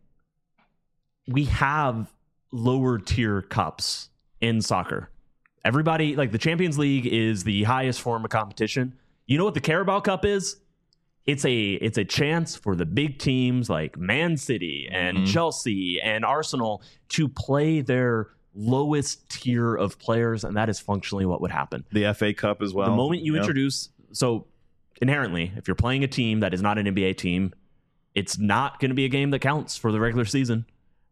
we have lower tier cups in soccer. Everybody, like the Champions League is the highest form of competition. You know what the Carabao Cup is? It's a it's a chance for the big teams like Man City and Mm-hmm. Chelsea and Arsenal to play their lowest tier of players, and that is functionally what would happen. The F A Cup as well. The moment you Yeah. introduce, so inherently, if you're playing a team that is not an N B A team, it's not going to be a game that counts for the regular season.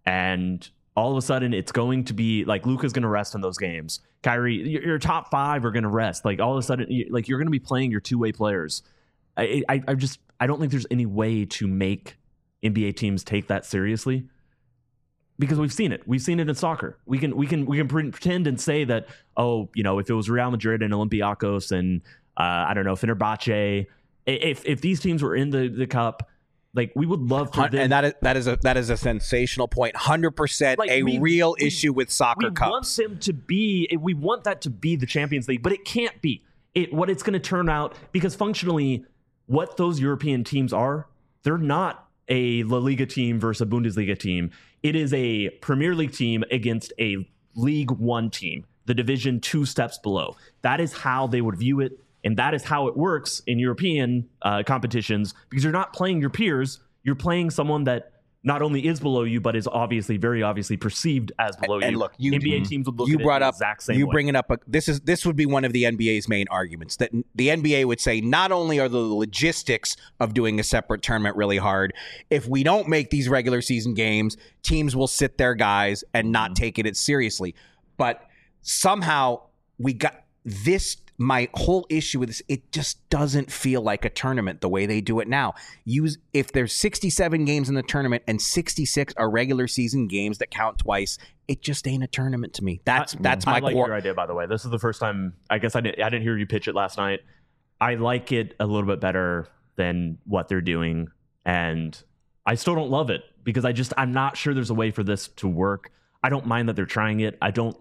And all of a sudden, it's going to be like Luka's going to rest in those games. Kyrie, your, your top five are going to rest. Like all of a sudden, you, like you're going to be playing your two way players. I, I, I just I don't think there's any way to make N B A teams take that seriously. Because we've seen it, we've seen it in soccer. We can we can we can pretend and say that, oh, you know, if it was Real Madrid and Olympiacos and uh, I don't know, Fenerbahce, if if these teams were in the, the cup, like we would love for them. And that is that is a that is a sensational point. one hundred percent Like, a we- real we- issue with soccer we cups. want them to be, we want that to be the Champions League, but it can't be. It what it's going to turn out, because functionally, what those European teams are, they're not a La Liga team versus a Bundesliga team. It is a Premier League team against a League One team, the division two steps below. That is how they would view it, and that is how it works in European uh, competitions, because you're not playing your peers, you're playing someone that not only is below you, but is obviously, very obviously perceived as below And you. look, you- N B A teams would look you at brought it the up exact same you way. bringing up a, this is this would be one of the N B A's main arguments, that the N B A would say not only are the logistics of doing a separate tournament really hard, if we don't make these regular season games, teams will sit their guys and not take it seriously. But somehow we got this. My whole issue with this, it just doesn't feel like a tournament the way they do it now. Use if there's sixty-seven games in the tournament and sixty-six are regular season games that count twice, it just ain't a tournament to me. That's I, that's I my like core. your idea, by the way. This is the first time. I guess I didn't. I didn't hear you pitch it last night. I like it a little bit better than what they're doing, and I still don't love it because I just I'm not sure there's a way for this to work. I don't mind that they're trying it. I don't.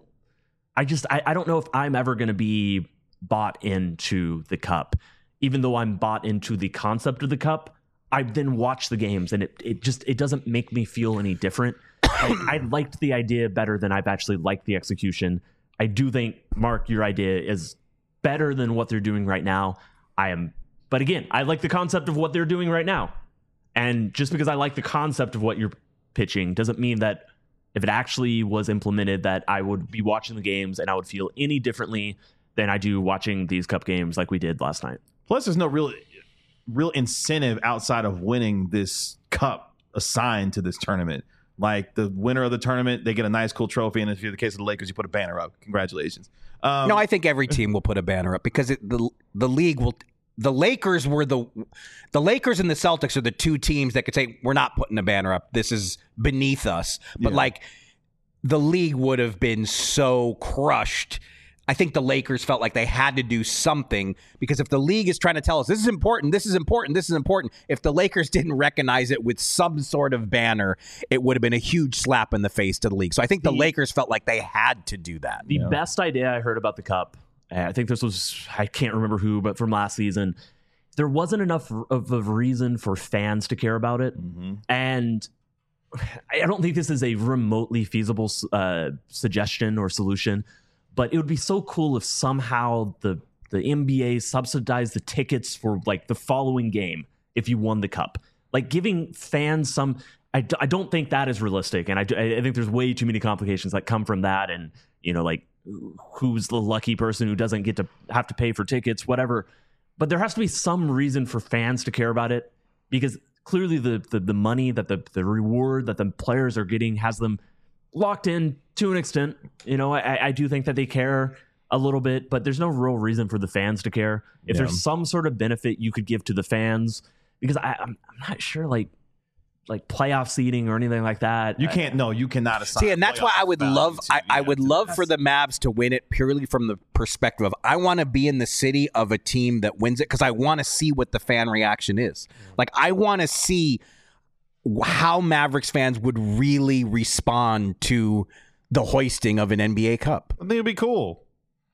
I just I, I don't know if I'm ever going to be bought into the cup, even though I'm bought into the concept of the cup. I then watch the games, and it it just it doesn't make me feel any different. I, I liked the idea better than I've actually liked the execution. I do think, Mark, your idea is better than what they're doing right now. I am, but again, I like the concept of what they're doing right now. And just because I like the concept of what you're pitching doesn't mean that if it actually was implemented, that I would be watching the games and I would feel any differently than I do watching these cup games like we did last night. Plus, there's no real real incentive outside of winning this cup assigned to this tournament. Like the winner of the tournament, they get a nice, cool trophy. And if you're the case of the Lakers, you put a banner up. Congratulations. Um, No, I think every team will put a banner up because it, the the league will. The Lakers were the the Lakers and the Celtics are the two teams that could say we're not putting a banner up. This is beneath us. But Yeah. like the league would have been so crushed. I think the Lakers felt like they had to do something because if the league is trying to tell us this is important, this is important, this is important, if the Lakers didn't recognize it with some sort of banner, it would have been a huge slap in the face to the league. So I think the, The- Lakers felt like they had to do that. The best idea I heard about the cup, uh, I think this was, I can't remember who, but from last season, there wasn't enough of a reason for fans to care about it. mhm. And I don't think this is a remotely feasible uh, suggestion or solution, but it would be so cool if somehow the the N B A subsidized the tickets for like the following game if you won the cup. Like giving fans some, I, I don't think that is realistic. And I, I think there's way too many complications that come from that. And, you know, like who's the lucky person who doesn't get to have to pay for tickets, whatever. But there has to be some reason for fans to care about it, because clearly the the, the money that the, the reward that the players are getting has them locked in to an extent. You know, I, I do think that they care a little bit, but there's no real reason for the fans to care. If Yeah. there's some sort of benefit you could give to the fans, because I, I'm, I'm not sure, like like playoff seeding or anything like that. You can't. No, you cannot assign. See, and that's why I would playoff love, value to- I, I yeah, would to love the for the Mavs to win it purely from the perspective of I want to be in the city of a team that wins it, because I want to see what the fan reaction is. Like I want to see how Mavericks fans would really respond to the hoisting of an N B A Cup. I think it'd be cool.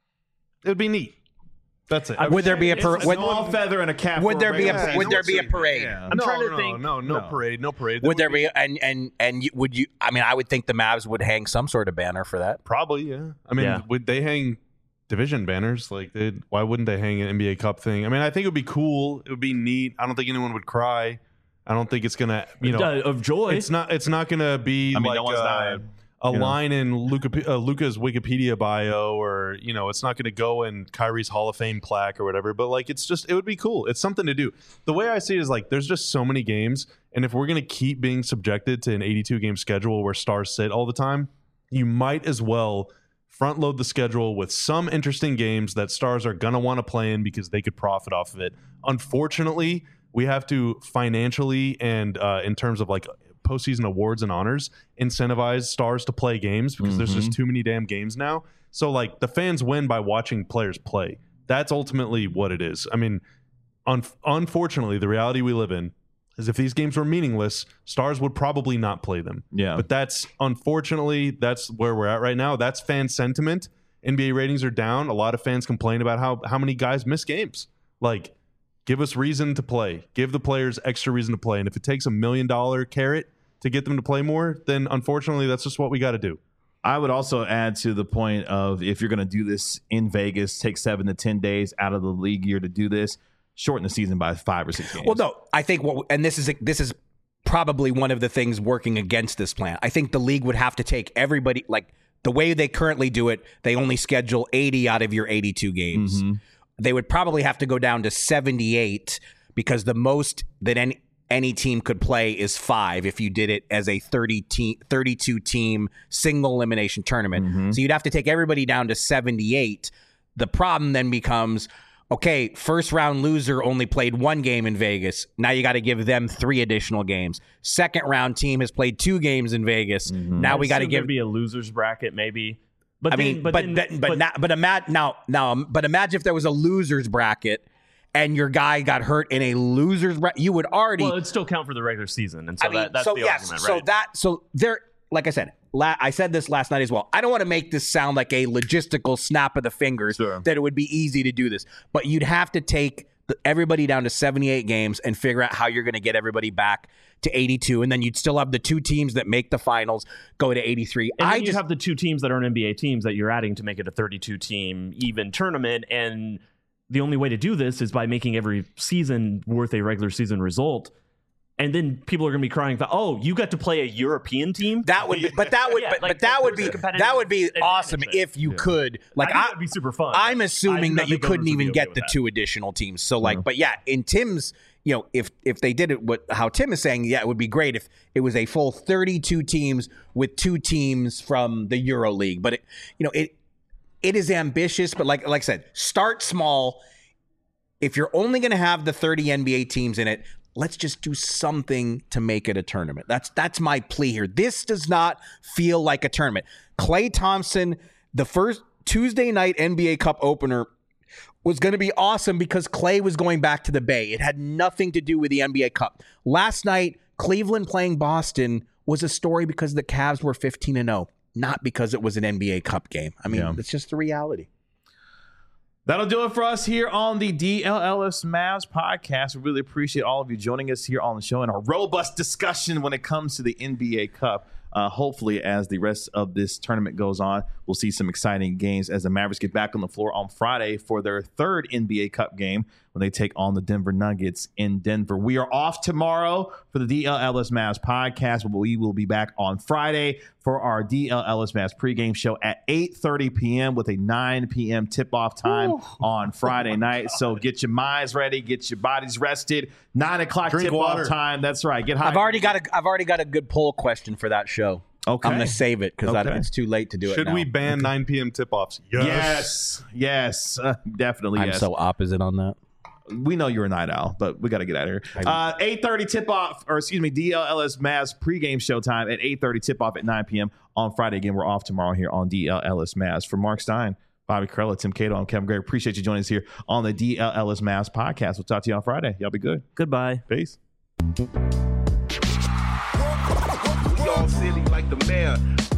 It'd be neat. That's it. Would there be a It's par- a would, small feather in a cap. would for there be a regular would season. there be a parade? Yeah. I'm no, trying to no, think- No, no, no. parade, no parade. Would there be and and and you, would you? I mean, I would think the Mavs would hang some sort of banner for that. Probably, yeah. I mean, Yeah. would they hang division banners? Like, they why wouldn't they hang an N B A Cup thing? I mean, I think it would be cool. It would be neat. I don't think anyone would cry. I don't think it's gonna, you know, Uh, of joy. it's not. It's not gonna be I mean, like no one's uh, dying. a you know. line in Luca, uh, Luca's Wikipedia bio, or you know, it's not gonna go in Kyrie's Hall of Fame plaque or whatever. But like, it's just, it would be cool. It's something to do. The way I see it is like, there's just so many games, and if we're gonna keep being subjected to an eighty-two game schedule where stars sit all the time, you might as well front load the schedule with some interesting games that stars are going to want to play in because they could profit off of it. Unfortunately, we have to financially and uh, in terms of like postseason awards and honors incentivize stars to play games because there's just too many damn games now. So like the fans win by watching players play. That's ultimately what it is. I mean, un- unfortunately, the reality we live in is if these games were meaningless, stars would probably not play them. Yeah. But that's, unfortunately, that's where we're at right now. That's fan sentiment. N B A ratings are down. A lot of fans complain about how, how many guys miss games. Like, give us reason to play. Give the players extra reason to play. And if it takes a million dollar carrot to get them to play more, then unfortunately, that's just what we got to do. I would also add to the point of if you're going to do this in Vegas, take seven to ten days out of the league year to do this. Shorten the season by five or six games. Well, no, I think what, and this is this is probably one of the things working against this plan. I think the league would have to take everybody, like the way they currently do it. They only schedule eighty out of your eighty-two games. Mm-hmm. They would probably have to go down to seventy-eight because the most that any any team could play is five if you did it as a thirty team, thirty-two team single elimination tournament. Mm-hmm. So you'd have to take everybody down to seventy-eight. The problem then becomes, okay, first round loser only played one game in Vegas. Now you got to give them three additional games. Second round team has played two games in Vegas. Mm-hmm. Now we got to Assume give. there'd be a losers bracket, maybe. But I then- mean, but but then- but but, not, but imagine now now but imagine if there was a losers bracket and your guy got hurt in a losers bracket, you would already. well, it'd still count for the regular season, and so I mean, that, that's so the yes, argument, so right? that so there. Like I said, la- I said this last night as well. I don't want to make this sound like a logistical snap of the fingers Sure. that it would be easy to do this, but you'd have to take the, everybody down to seventy-eight games and figure out how you're going to get everybody back to eighty-two, and then you'd still have the two teams that make the finals go to eighty-three. And I then you just have the two teams that are N B A teams that you're adding to make it a thirty-two team even tournament. And the only way to do this is by making every season worth a regular season result. And then people are going to be crying about, oh, you got to play a European team? that would, be, but that would, Yeah, but, like, but that would there's be a competitive that would be advantage awesome there. if you could. Like I think I, that'd be super fun. I'm I assuming do that not you think couldn't owners would be even okay get with the that. two additional teams. So like, but yeah, in Tim's, you know, if if they did it, what how Tim is saying, yeah, it would be great if it was a full thirty-two teams with two teams from the Euro League. But it, you know, it it is ambitious. But like like I said, start small. If you're only going to have the thirty N B A teams in it, let's just do something to make it a tournament. That's that's my plea here. This does not feel like a tournament. Klay Thompson, the first Tuesday night N B A Cup opener was going to be awesome because Klay was going back to the Bay. It had nothing to do with the N B A Cup. Last night, Cleveland playing Boston was a story because the Cavs were fifteen and oh, not because it was an N B A Cup game. I mean, Yeah. it's just the reality. That'll do it for us here on the D L L S Mavs podcast. We really appreciate all of you joining us here on the show and our robust discussion when it comes to the N B A Cup. Uh, hopefully, as the rest of this tournament goes on, we'll see some exciting games as the Mavericks get back on the floor on Friday for their third N B A Cup game when they take on the Denver Nuggets in Denver. We are off tomorrow for the D L L S Mavs podcast, but we will be back on Friday for our D L L S Mavs pregame show at eight thirty p.m. with a nine p.m. tip-off time Ooh. on Friday night. So get your minds ready, get your bodies rested. Nine o'clock Drink tip-off water. time. That's right. Get high. I've already got a I've already got a good poll question for that show. Okay. I'm going to save it because Okay. it's too late to do Should it now. we ban nine p.m. tip-offs? Yes, yes, uh, definitely. I'm yes. so opposite on that. We know you're a night owl, but we got to get out of here. Uh, eight thirty tip off, or excuse me, D L L S Mavs pregame showtime at eight thirty tip off at nine p.m. on Friday. Again, we're off tomorrow here on D L L S Mavs. For Mark Stein, Bobby Carella, Tim Cato, I'm Kevin Gray. Appreciate you joining us here on the D L L S Mavs podcast. We'll talk to you on Friday. Y'all be good. Goodbye. Peace. We all silly like the mayor.